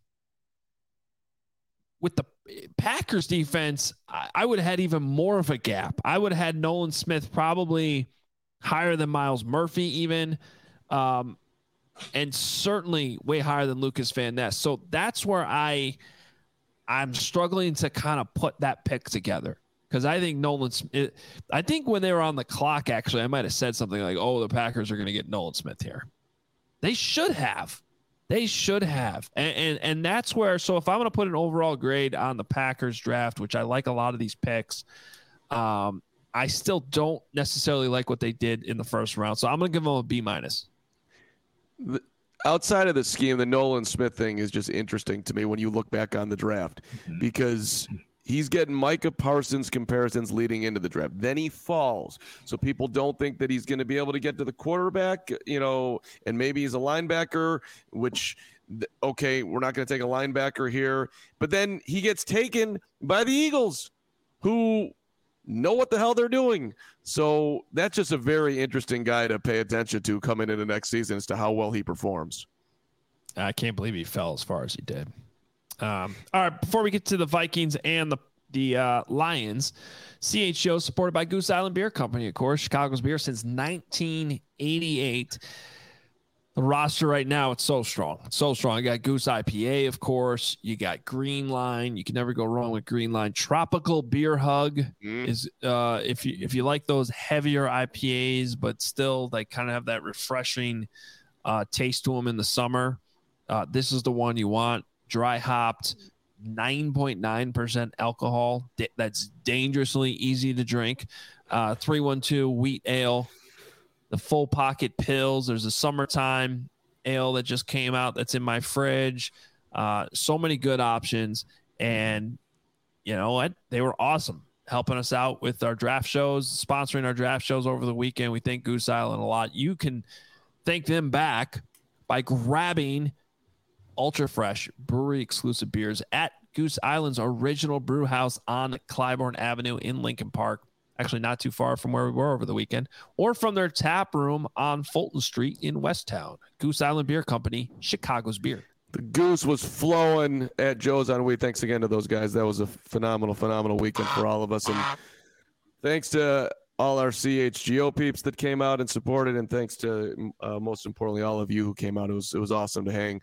With the Packers defense, I would have had even more of a gap. I would have had Nolan Smith probably higher than Myles Murphy even, and certainly way higher than Lucas Van Ness. So that's where I'm struggling to kind of put that pick together. Because I think I think when they were on the clock, actually, I might have said something like, oh, the Packers are going to get Nolan Smith here. They should have. And that's where, so if I'm going to put an overall grade on the Packers draft, which I like a lot of these picks, I still don't necessarily like what they did in the first round. So I'm going to give them a B-. Outside of the scheme, the Nolan Smith thing is just interesting to me when you look back on the draft, because he's getting Micah Parsons comparisons leading into the draft. Then he falls. So people don't think that he's going to be able to get to the quarterback, and maybe he's a linebacker, which, okay, we're not going to take a linebacker here. But then he gets taken by the Eagles, who know what the hell they're doing. So that's just a very interesting guy to pay attention to coming into next season as to how well he performs. I can't believe he fell as far as he did. All right, before we get to the Vikings and the Lions, CHGO supported by Goose Island Beer Company, of course, Chicago's beer since 1988. The roster right now, it's so strong. It's so strong. You got Goose IPA, of course. You got Green Line. You can never go wrong with Green Line. Tropical Beer Hug is if you like those heavier IPAs, but still they kind of have that refreshing taste to them in the summer. This is the one you want. Dry hopped, 9.9% alcohol. That's dangerously easy to drink. 312 wheat ale, the full pocket pills. There's a summertime ale that just came out that's in my fridge. So many good options. And you know what? They were awesome, helping us out with our draft shows, sponsoring our draft shows over the weekend. We thank Goose Island a lot. You can thank them back by grabbing ultra fresh brewery exclusive beers at Goose Island's original brew house on Clybourne Avenue in Lincoln Park. Actually not too far from where we were over the weekend, or from their tap room on Fulton Street in Westtown. Goose Island Beer Company, Chicago's beer. The Goose was flowing at Joe's on Weed. Thanks again to those guys. That was a phenomenal weekend for all of us. And thanks to all our CHGO peeps that came out and supported, and thanks to most importantly all of you who came out. It was awesome to hang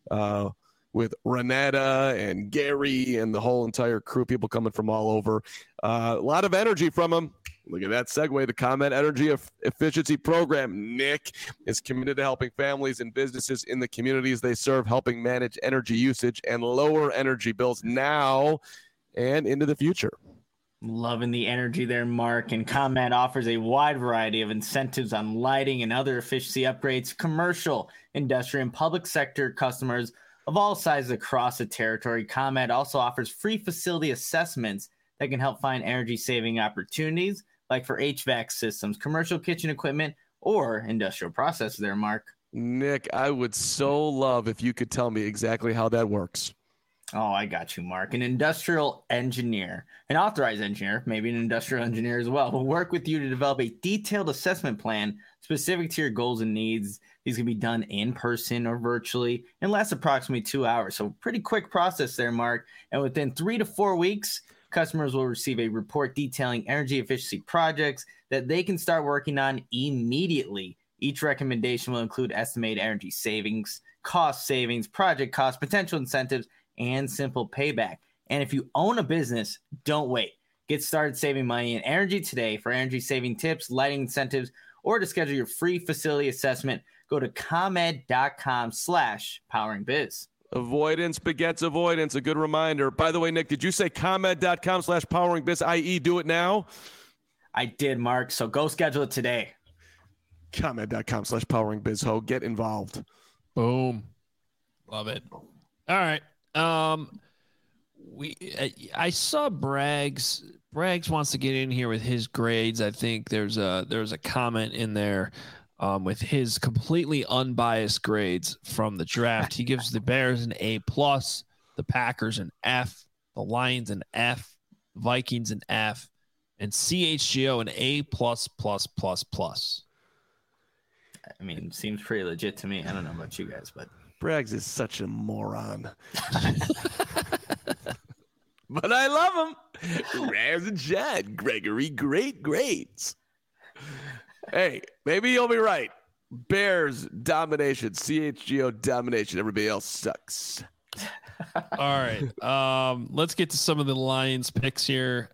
with Renata and Gary and the whole entire crew, people coming from all over. A lot of energy from them. Look at that segue. The ComEd Energy Efficiency Program, Nick, is committed to helping families and businesses in the communities they serve, helping manage energy usage and lower energy bills now and into the future. Loving the energy there, Mark. And ComEd offers a wide variety of incentives on lighting and other efficiency upgrades, commercial, industrial, and public sector customers of all sizes across the territory. ComEd also offers free facility assessments that can help find energy-saving opportunities, like for HVAC systems, commercial kitchen equipment, or industrial processes there, Mark. Nick, I would so love if you could tell me exactly how that works. Oh, I got you, Mark. An industrial engineer, an authorized engineer, maybe an industrial engineer as well, will work with you to develop a detailed assessment plan specific to your goals and needs. These can be done in person or virtually and last approximately 2 hours. So pretty quick process there, Mark. And within 3 to 4 weeks, customers will receive a report detailing energy efficiency projects that they can start working on immediately. Each recommendation will include estimated energy savings, cost savings, project costs, potential incentives, and simple payback. And if you own a business, don't wait. Get started saving money in energy today. For energy saving tips, lighting incentives, or to schedule your free facility assessment, go to comed.com/poweringbiz. Avoidance begets avoidance. A good reminder. By the way, Nick, did you say comed.com/poweringbiz, i.e. do it now? I did, Mark. So go schedule it today. ComEd.com/PoweringBizHo. Get involved. Boom. Love it. All right. I saw Braggs wants to get in here with his grades. I think there's a comment in there with his completely unbiased grades from the draft. He gives the Bears an A+, the Packers an F, the Lions an F, Vikings an F, and CHGO an A++++. I mean, seems pretty legit to me. I don't know about you guys, but Braggs is such a moron. But I love him. Raz and Chad, Gregory, great grades. Hey, maybe you'll be right. Bears domination, CHGO domination. Everybody else sucks. All right. Let's get to some of the Lions picks here.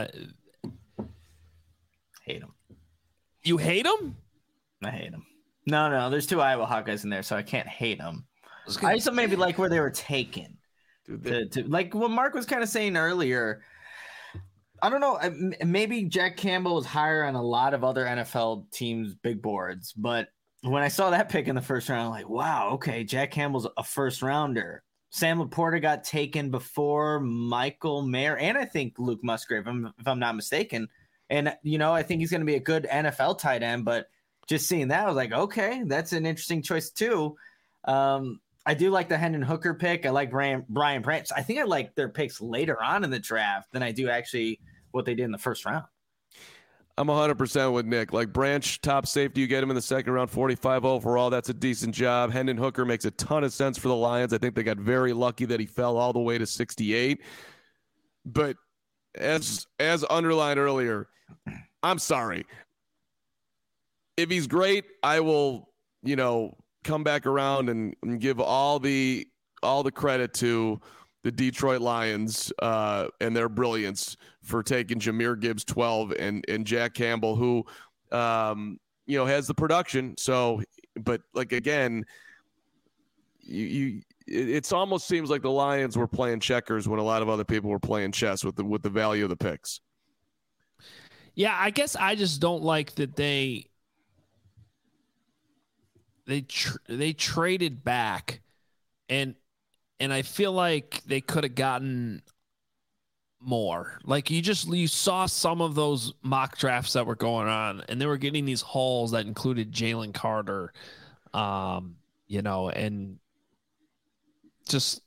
hate them. You hate them? I hate them. No. There's 2 Iowa Hawkeyes in there, so I can't hate them. I also maybe like where they were taken. To like what Mark was kind of saying earlier. I don't know. Maybe Jack Campbell was higher on a lot of other NFL teams' big boards, but when I saw that pick in the first round, I'm like, wow, okay, Jack Campbell's a first rounder. Sam Laporta got taken before Michael Mayer and I think Luke Musgrave, if I'm not mistaken. And, I think he's going to be a good NFL tight end, but just seeing that, I was like, okay, that's an interesting choice too. I do like the Hendon Hooker pick. I like Brian Branch. I think I like their picks later on in the draft than I do actually what they did in the first round. I'm 100% with Nick. Like Branch, top safety, you get him in the second round, 45 overall. That's a decent job. Hendon Hooker makes a ton of sense for the Lions. I think they got very lucky that he fell all the way to 68. But as underlined earlier, I'm sorry. If he's great, I will, come back around and give all the credit to the Detroit Lions and their brilliance for taking Jahmyr Gibbs 12 and Jack Campbell, who has the production. So, but like again, it almost seems like the Lions were playing checkers when a lot of other people were playing chess with the value of the picks. Yeah, I guess I just don't like that they traded back, and I feel like they could have gotten more. Like you saw some of those mock drafts that were going on, and they were getting these hauls that included Jalen Carter, and just.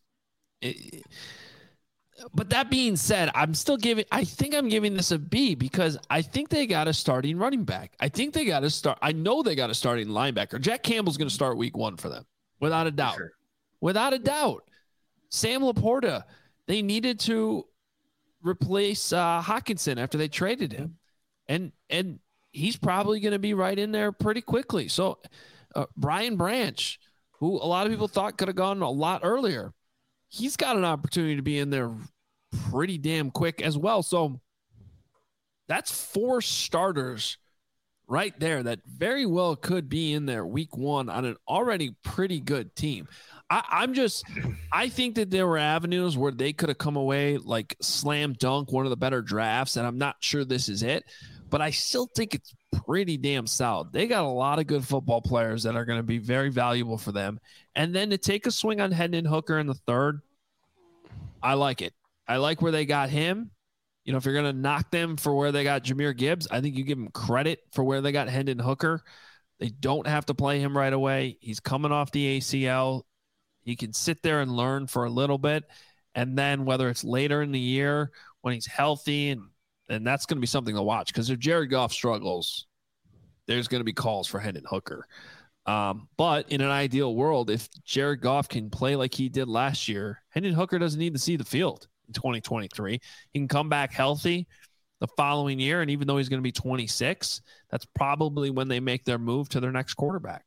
But that being said, I think I'm giving this a B because I think they got a starting running back. I know they got a starting linebacker. Jack Campbell's going to start week 1 for them, without a doubt. Sure. Without a doubt. Sam Laporta, they needed to replace Hockenson after they traded him. And he's probably going to be right in there pretty quickly. So Brian Branch, who a lot of people thought could have gone a lot earlier, he's got an opportunity to be in there pretty damn quick as well. So that's 4 starters right there that very well could be in there week 1 on an already pretty good team. I think that there were avenues where they could have come away like slam dunk, one of the better drafts, and I'm not sure this is it, but I still think it's pretty damn solid. They got a lot of good football players that are going to be very valuable for them. And then to take a swing on Hendon Hooker in the 3rd, I like it. I like where they got him. If you're going to knock them for where they got Jahmyr Gibbs, I think you give them credit for where they got Hendon Hooker. They don't have to play him right away. He's coming off the ACL. He can sit there and learn for a little bit. And then whether it's later in the year when he's healthy, and that's going to be something to watch, because if Jared Goff struggles, there's going to be calls for Hendon Hooker. But in an ideal world, if Jared Goff can play like he did last year, Hendon Hooker doesn't need to see the field in 2023. He can come back healthy the following year, and even though he's going to be 26, that's probably when they make their move to their next quarterback.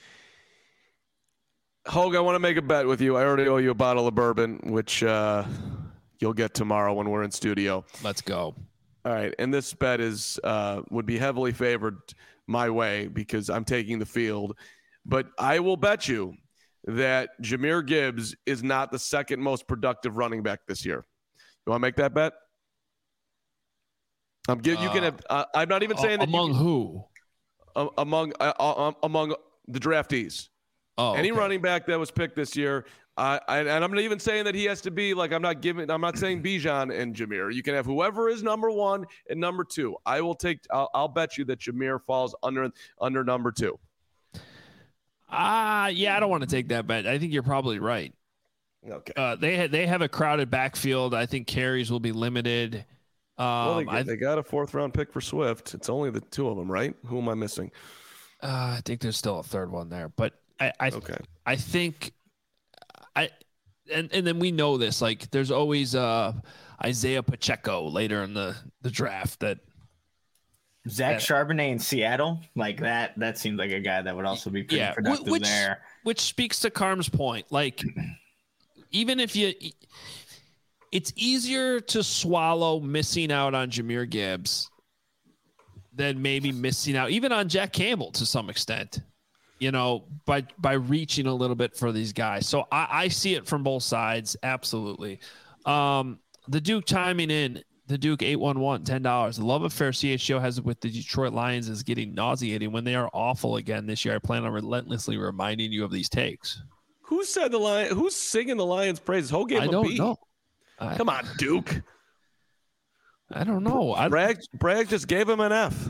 Hogue, I want to make a bet with you. I already owe you a bottle of bourbon, which you'll get tomorrow when we're in studio. Let's go. All right, and this bet would be heavily favored my way because I'm taking the field. But I will bet you that Jahmyr Gibbs is not the second most productive running back this year. You want to make that bet? You can have. I'm not even saying that among who? Among the draftees. Oh, any okay. running back that was picked this year. And I'm not even saying that he has to be like, I'm not saying Bijan and Jameer. You can have whoever is number 1 and number 2. I'll bet you that Jameer falls under number 2. Yeah, I don't want to take that bet. I think you're probably right. Okay. They have a crowded backfield. I think carries will be limited. They got a 4th round pick for Swift. It's only the 2 of them, right? Who am I missing? I think there's still a 3rd one there, but I think and then we know this, like there's always Isaiah Pacheco later in the draft that Zach Charbonnet in Seattle, like that seems like a guy that would also be pretty productive there. Which speaks to Carm's point. Like, even if it's easier to swallow missing out on Jahmyr Gibbs than maybe missing out even on Jack Campbell to some extent, by reaching a little bit for these guys. So I see it from both sides. Absolutely. The Duke chiming in. The Duke 811 $10. The love affair CHGO has with the Detroit Lions is getting nauseating. When they are awful again this year, I plan on relentlessly reminding you of these takes. Who said the Lions? Who's singing the Lions' praises? Who gave I him don't a beat? know. Come on, Duke. I don't know. Bragg just gave him an F.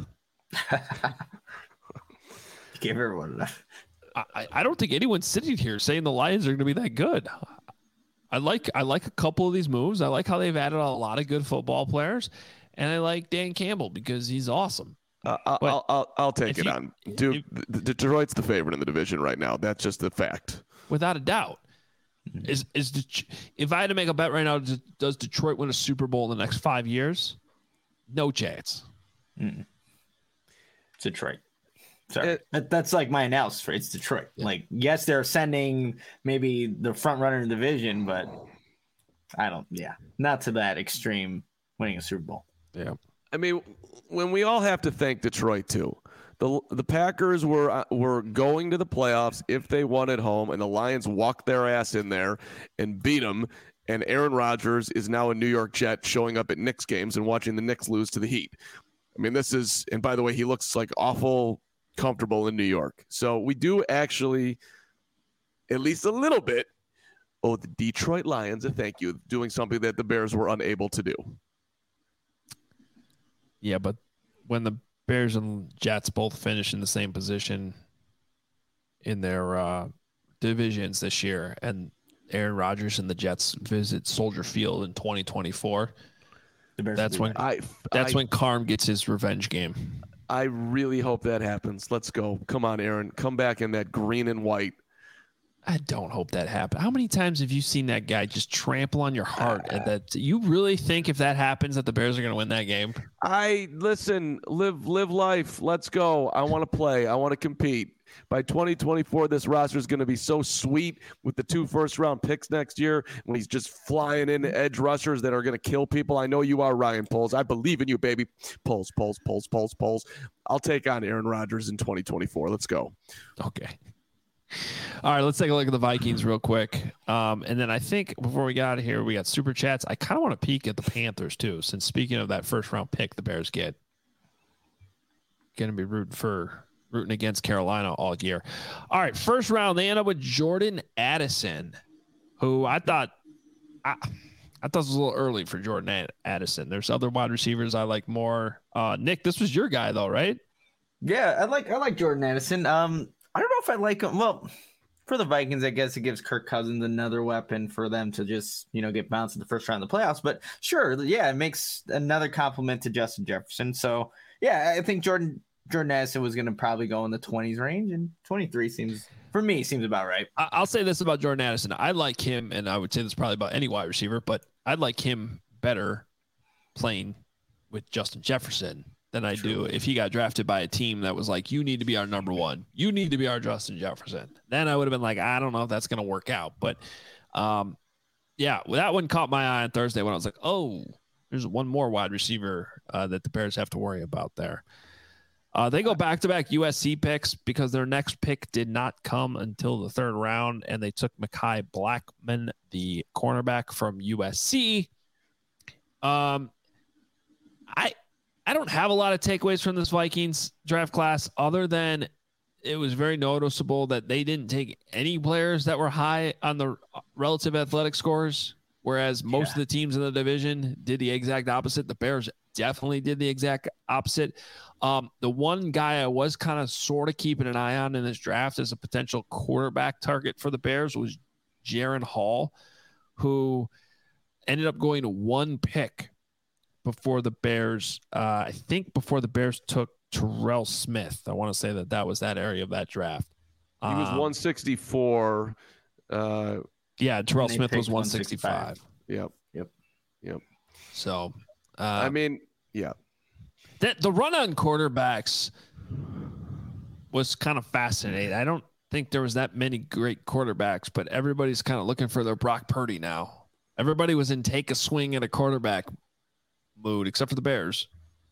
Gave everyone an F. I don't think anyone's sitting here saying the Lions are going to be that good. I like a couple of these moves. I like how they've added a lot of good football players, and I like Dan Campbell because he's awesome. I'll take it on Duke. Detroit's the favorite in the division right now. That's just the fact, without a doubt. If I had to make a bet right now, does Detroit win a Super Bowl in the next 5 years? No chance. Detroit. Sorry. That's like my analysis. It's Detroit. Yeah. Like, yes, they're sending maybe the front runner in the division, but not to that extreme winning a Super Bowl. Yeah. I mean, when we all have to thank Detroit too. The Packers were going to the playoffs if they won at home, and the Lions walked their ass in there and beat them. And Aaron Rodgers is now a New York Jet showing up at Knicks games and watching the Knicks lose to the Heat. I mean, and by the way, he looks like awful comfortable in New York. So we do actually, at least a little bit, owe the Detroit Lions a thank you, doing something that the Bears were unable to do. Yeah, but when the Bears and Jets both finish in the same position in their divisions this year, and Aaron Rodgers and the Jets visit Soldier Field in 2024, that's when Carm gets his revenge game. I really hope that happens. Let's go. Come on, Aaron. Come back in that green and white. I don't hope that happens. How many times have you seen that guy just trample on your heart? That you really think if that happens that the Bears are going to win that game? Live life. Let's go. I want to play. I want to compete. By 2024, this roster is going to be so sweet with the 2 first-round picks next year when he's just flying in edge rushers that are going to kill people. I know you are, Ryan Poles. I believe in you, baby. Poles. I'll take on Aaron Rodgers in 2024. Let's go. Okay. All right, let's take a look at the Vikings real quick. And then I think before we get out of here, we got Super Chats. I kind of want to peek at the Panthers, too, since speaking of that first-round pick the Bears get. Going to be rooting against Carolina all year. All right, first round, they end up with Jordan Addison, who I thought was a little early for Jordan Addison. There's other wide receivers I like more. Nick, this was your guy though, right? Yeah, I like Jordan Addison. I don't know if I like him. Well, for the Vikings, I guess it gives Kirk Cousins another weapon for them to just, get bounced in the first round of the playoffs. But sure, yeah, it makes another compliment to Justin Jefferson. So yeah, I think Jordan Addison was going to probably go in the 20s range, and 23 seems about right. I'll say this about Jordan Addison. I like him, and I would say this probably about any wide receiver, but I'd like him better playing with Justin Jefferson than I do if he got drafted by a team that was like, you need to be our number one. You need to be our Justin Jefferson. Then I would have been like, I don't know if that's going to work out. But, yeah, that one caught my eye on Thursday when I was like, oh, there's one more wide receiver that the Bears have to worry about there. They go back-to-back USC picks because their next pick did not come until the 3rd round, and they took Mekhi Blackman, the cornerback from USC. I don't have a lot of takeaways from this Vikings draft class other than it was very noticeable that they didn't take any players that were high on the relative athletic scores, whereas most of the teams in the division did the exact opposite. The Bears definitely did the exact opposite. The one guy I was kind of sort of keeping an eye on in this draft as a potential quarterback target for the Bears was Jaron Hall, who ended up going to one pick before the Bears. I think before the Bears took Terrell Smith. I want to say that was that area of that draft. He was 164. Yeah, Terrell Smith was 165. Yep. So, I mean, yeah. The run on quarterbacks was kind of fascinating. I don't think there was that many great quarterbacks, but everybody's kind of looking for their Brock Purdy now. Everybody was in take a swing at a quarterback mood, except for the Bears.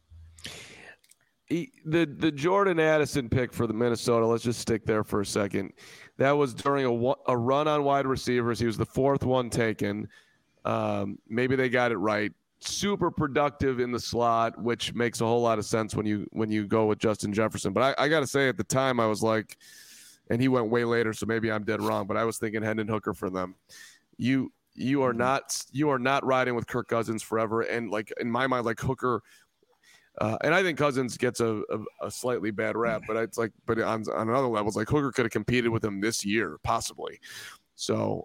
The Jordan Addison pick for the Minnesota, let's just stick there for a second. That was during a run on wide receivers. He was the fourth one taken. Maybe they got it right. Super productive in the slot, which makes a whole lot of sense when you go with Justin Jefferson. But I got to say, at the time, I was like, and he went way later, so maybe I'm dead wrong, but I was thinking Hendon Hooker for them. You are not riding with Kirk Cousins forever, and like in my mind, like Hooker. And I think Cousins gets a slightly bad rap, but it's like, but on another level, it's like Hooker could have competed with him this year, possibly. So,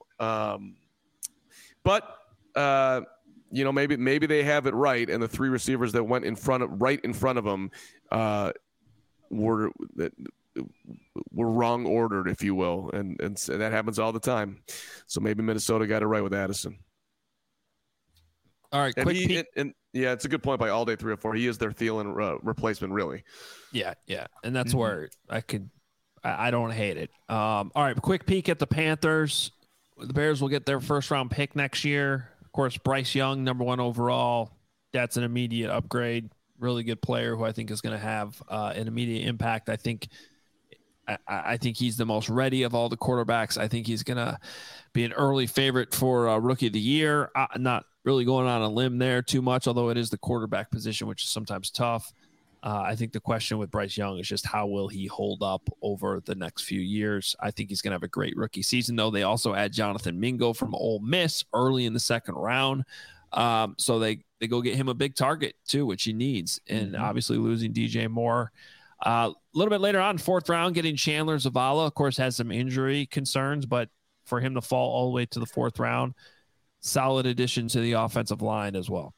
maybe they have it right, and the three receivers that went right in front of him, were wrong ordered, if you will, and that happens all the time. So maybe Minnesota got it right with Addison. All right, quick peek. Yeah, it's a good point by All Day 304. He is their Thielen replacement, really. Yeah, and that's where I don't hate it. All right, quick peek at the Panthers. The Bears will get their first round pick next year. Of course, Bryce Young, number 1 overall. That's an immediate upgrade. Really good player who I think is going to have an immediate impact. I think he's the most ready of all the quarterbacks. I think he's going to be an early favorite for Rookie of the Year. Not really going on a limb there too much, although it is the quarterback position, which is sometimes tough. I think the question with Bryce Young is just how will he hold up over the next few years. I think he's going to have a great rookie season, though. They also add Jonathan Mingo from Ole Miss early in the second round. So they go get him a big target, too, which he needs. And obviously losing DJ Moore. A little bit later on, fourth round, getting Chandler Zavala, of course, has some injury concerns, but for him to fall all the way to the fourth round, solid addition to the offensive line as well.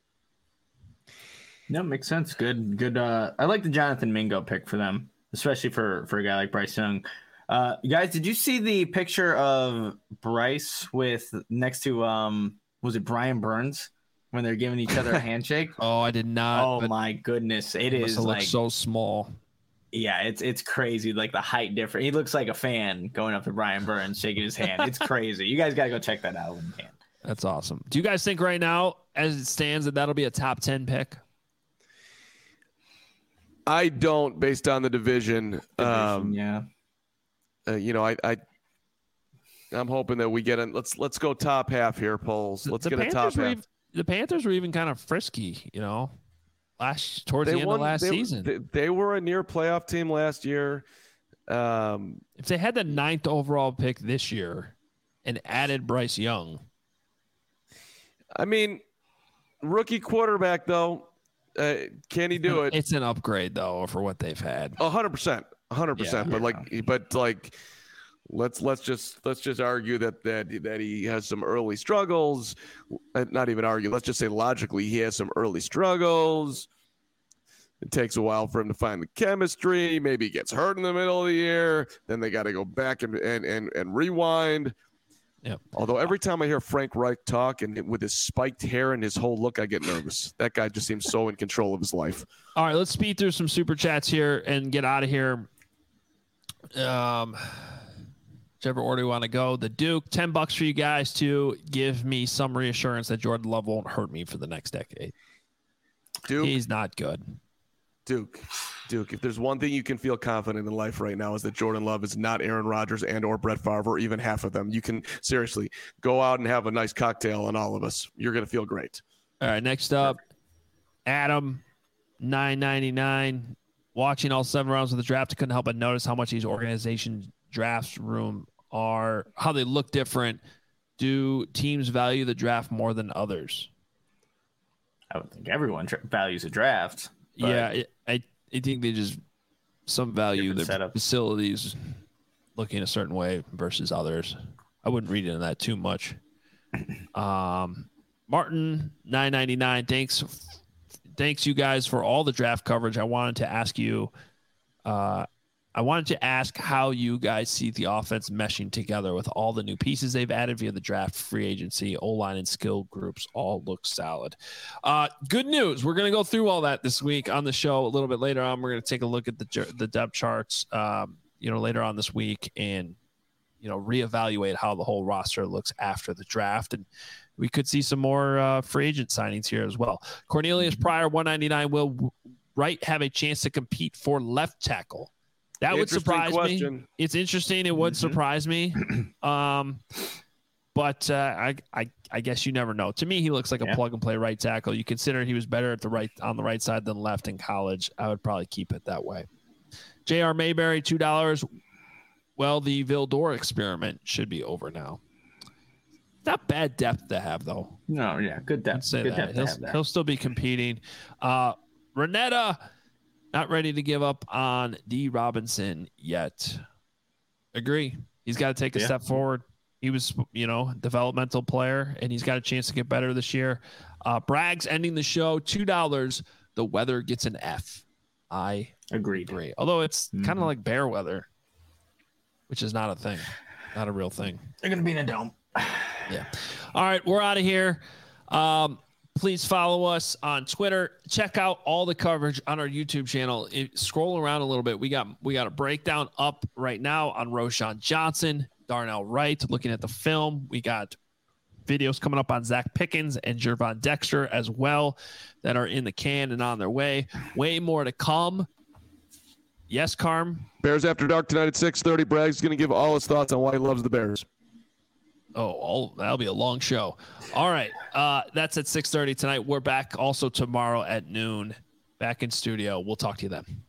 No, makes sense. Good. I like the Jonathan Mingo pick for them, especially for a guy like Bryce Young. Guys, did you see the picture of Bryce with next to was it Brian Burns when they're giving each other a handshake? Oh, I did not. Oh my goodness, it is like so small. Yeah, it's crazy. Like the height difference. He looks like a fan going up to Brian Burns, shaking his hand. It's crazy. You guys got to go check that out when you can. That's awesome. Do you guys think right now, as it stands, that'll be a top 10 pick? I don't, based on the division. Yeah. I'm hoping that we get in. Let's go top half here, polls. Let's get a top half. The Panthers were even kind of frisky, towards the end of last season. They were a near playoff team last year. If they had the 9th overall pick this year and added Bryce Young. I mean, rookie quarterback, though, can he do it? It's an upgrade, though, for what they've had. 100%. 100%. But let's just argue that he has some early struggles. Not even argue. Let's just say logically he has some early struggles. It takes a while for him to find the chemistry. Maybe he gets hurt in the middle of the year. Then they got to go back and rewind. Yeah. Although every time I hear Frank Reich talk and with his spiked hair and his whole look, I get nervous. That guy just seems so in control of his life. All right, let's speed through some super chats here and get out of here. Whichever order you want to go. The Duke, $10 for you guys to give me some reassurance that Jordan Love won't hurt me for the next decade. Duke, he's not good. Duke, if there's one thing you can feel confident in life right now is that Jordan Love is not Aaron Rodgers and or Brett Favre or even half of them. You can seriously go out and have a nice cocktail on all of us. You're going to feel great. All right, next up, Adam. $9.99. Watching all 7 rounds of the draft, I couldn't help but notice how much these organization drafts how they look different. Do teams value the draft more than others? I would think everyone values a draft. Yeah, I think they just some value their setup. Facilities looking a certain way versus others. I wouldn't read into that too much. Martin, $9.99. Thanks you guys for all the draft coverage. I wanted to ask how you guys see the offense meshing together with all the new pieces they've added via the draft, free agency, O-line, and skill groups all look solid. Good news. We're going to go through all that this week on the show a little bit later on. We're going to take a look at the depth charts, later on this week and, reevaluate how the whole roster looks after the draft. And we could see some more free agent signings here as well. Cornelius Pryor, $199. Will Wright have a chance to compete for left tackle? That would surprise me. It's interesting. It would surprise me. But I guess you never know. To me, he looks like a plug and play right tackle. You consider he was better on the right side than left in college. I would probably keep it that way. J.R. Mayberry, $2. Well, the Vildor experiment should be over now. Not bad depth to have, though. No, yeah, good depth. Good depth to have that. He'll still be competing. Renetta, not ready to give up on D. Robinson yet. Agree. He's got to take a step forward. He was, developmental player, and he's got a chance to get better this year. Braggs ending the show, $2. The weather gets an F. I agree. Although it's kind of like bear weather, which is not a thing, not a real thing. They're going to be in a dome. Yeah. All right, we're out of here. Please follow us on Twitter. Check out all the coverage on our YouTube channel. Scroll around a little bit. We got a breakdown up right now on Roschon Johnson, Darnell Wright, looking at the film. We got videos coming up on Zach Pickens and Gervon Dexter as well that are in the can and on their way. Way more to come. Yes, Carm? Bears After Dark tonight at 6:30. Bragg's going to give all his thoughts on why he loves the Bears. That'll be a long show. All right. That's at 6:30 tonight. We're back also tomorrow at noon. Back in studio. We'll talk to you then.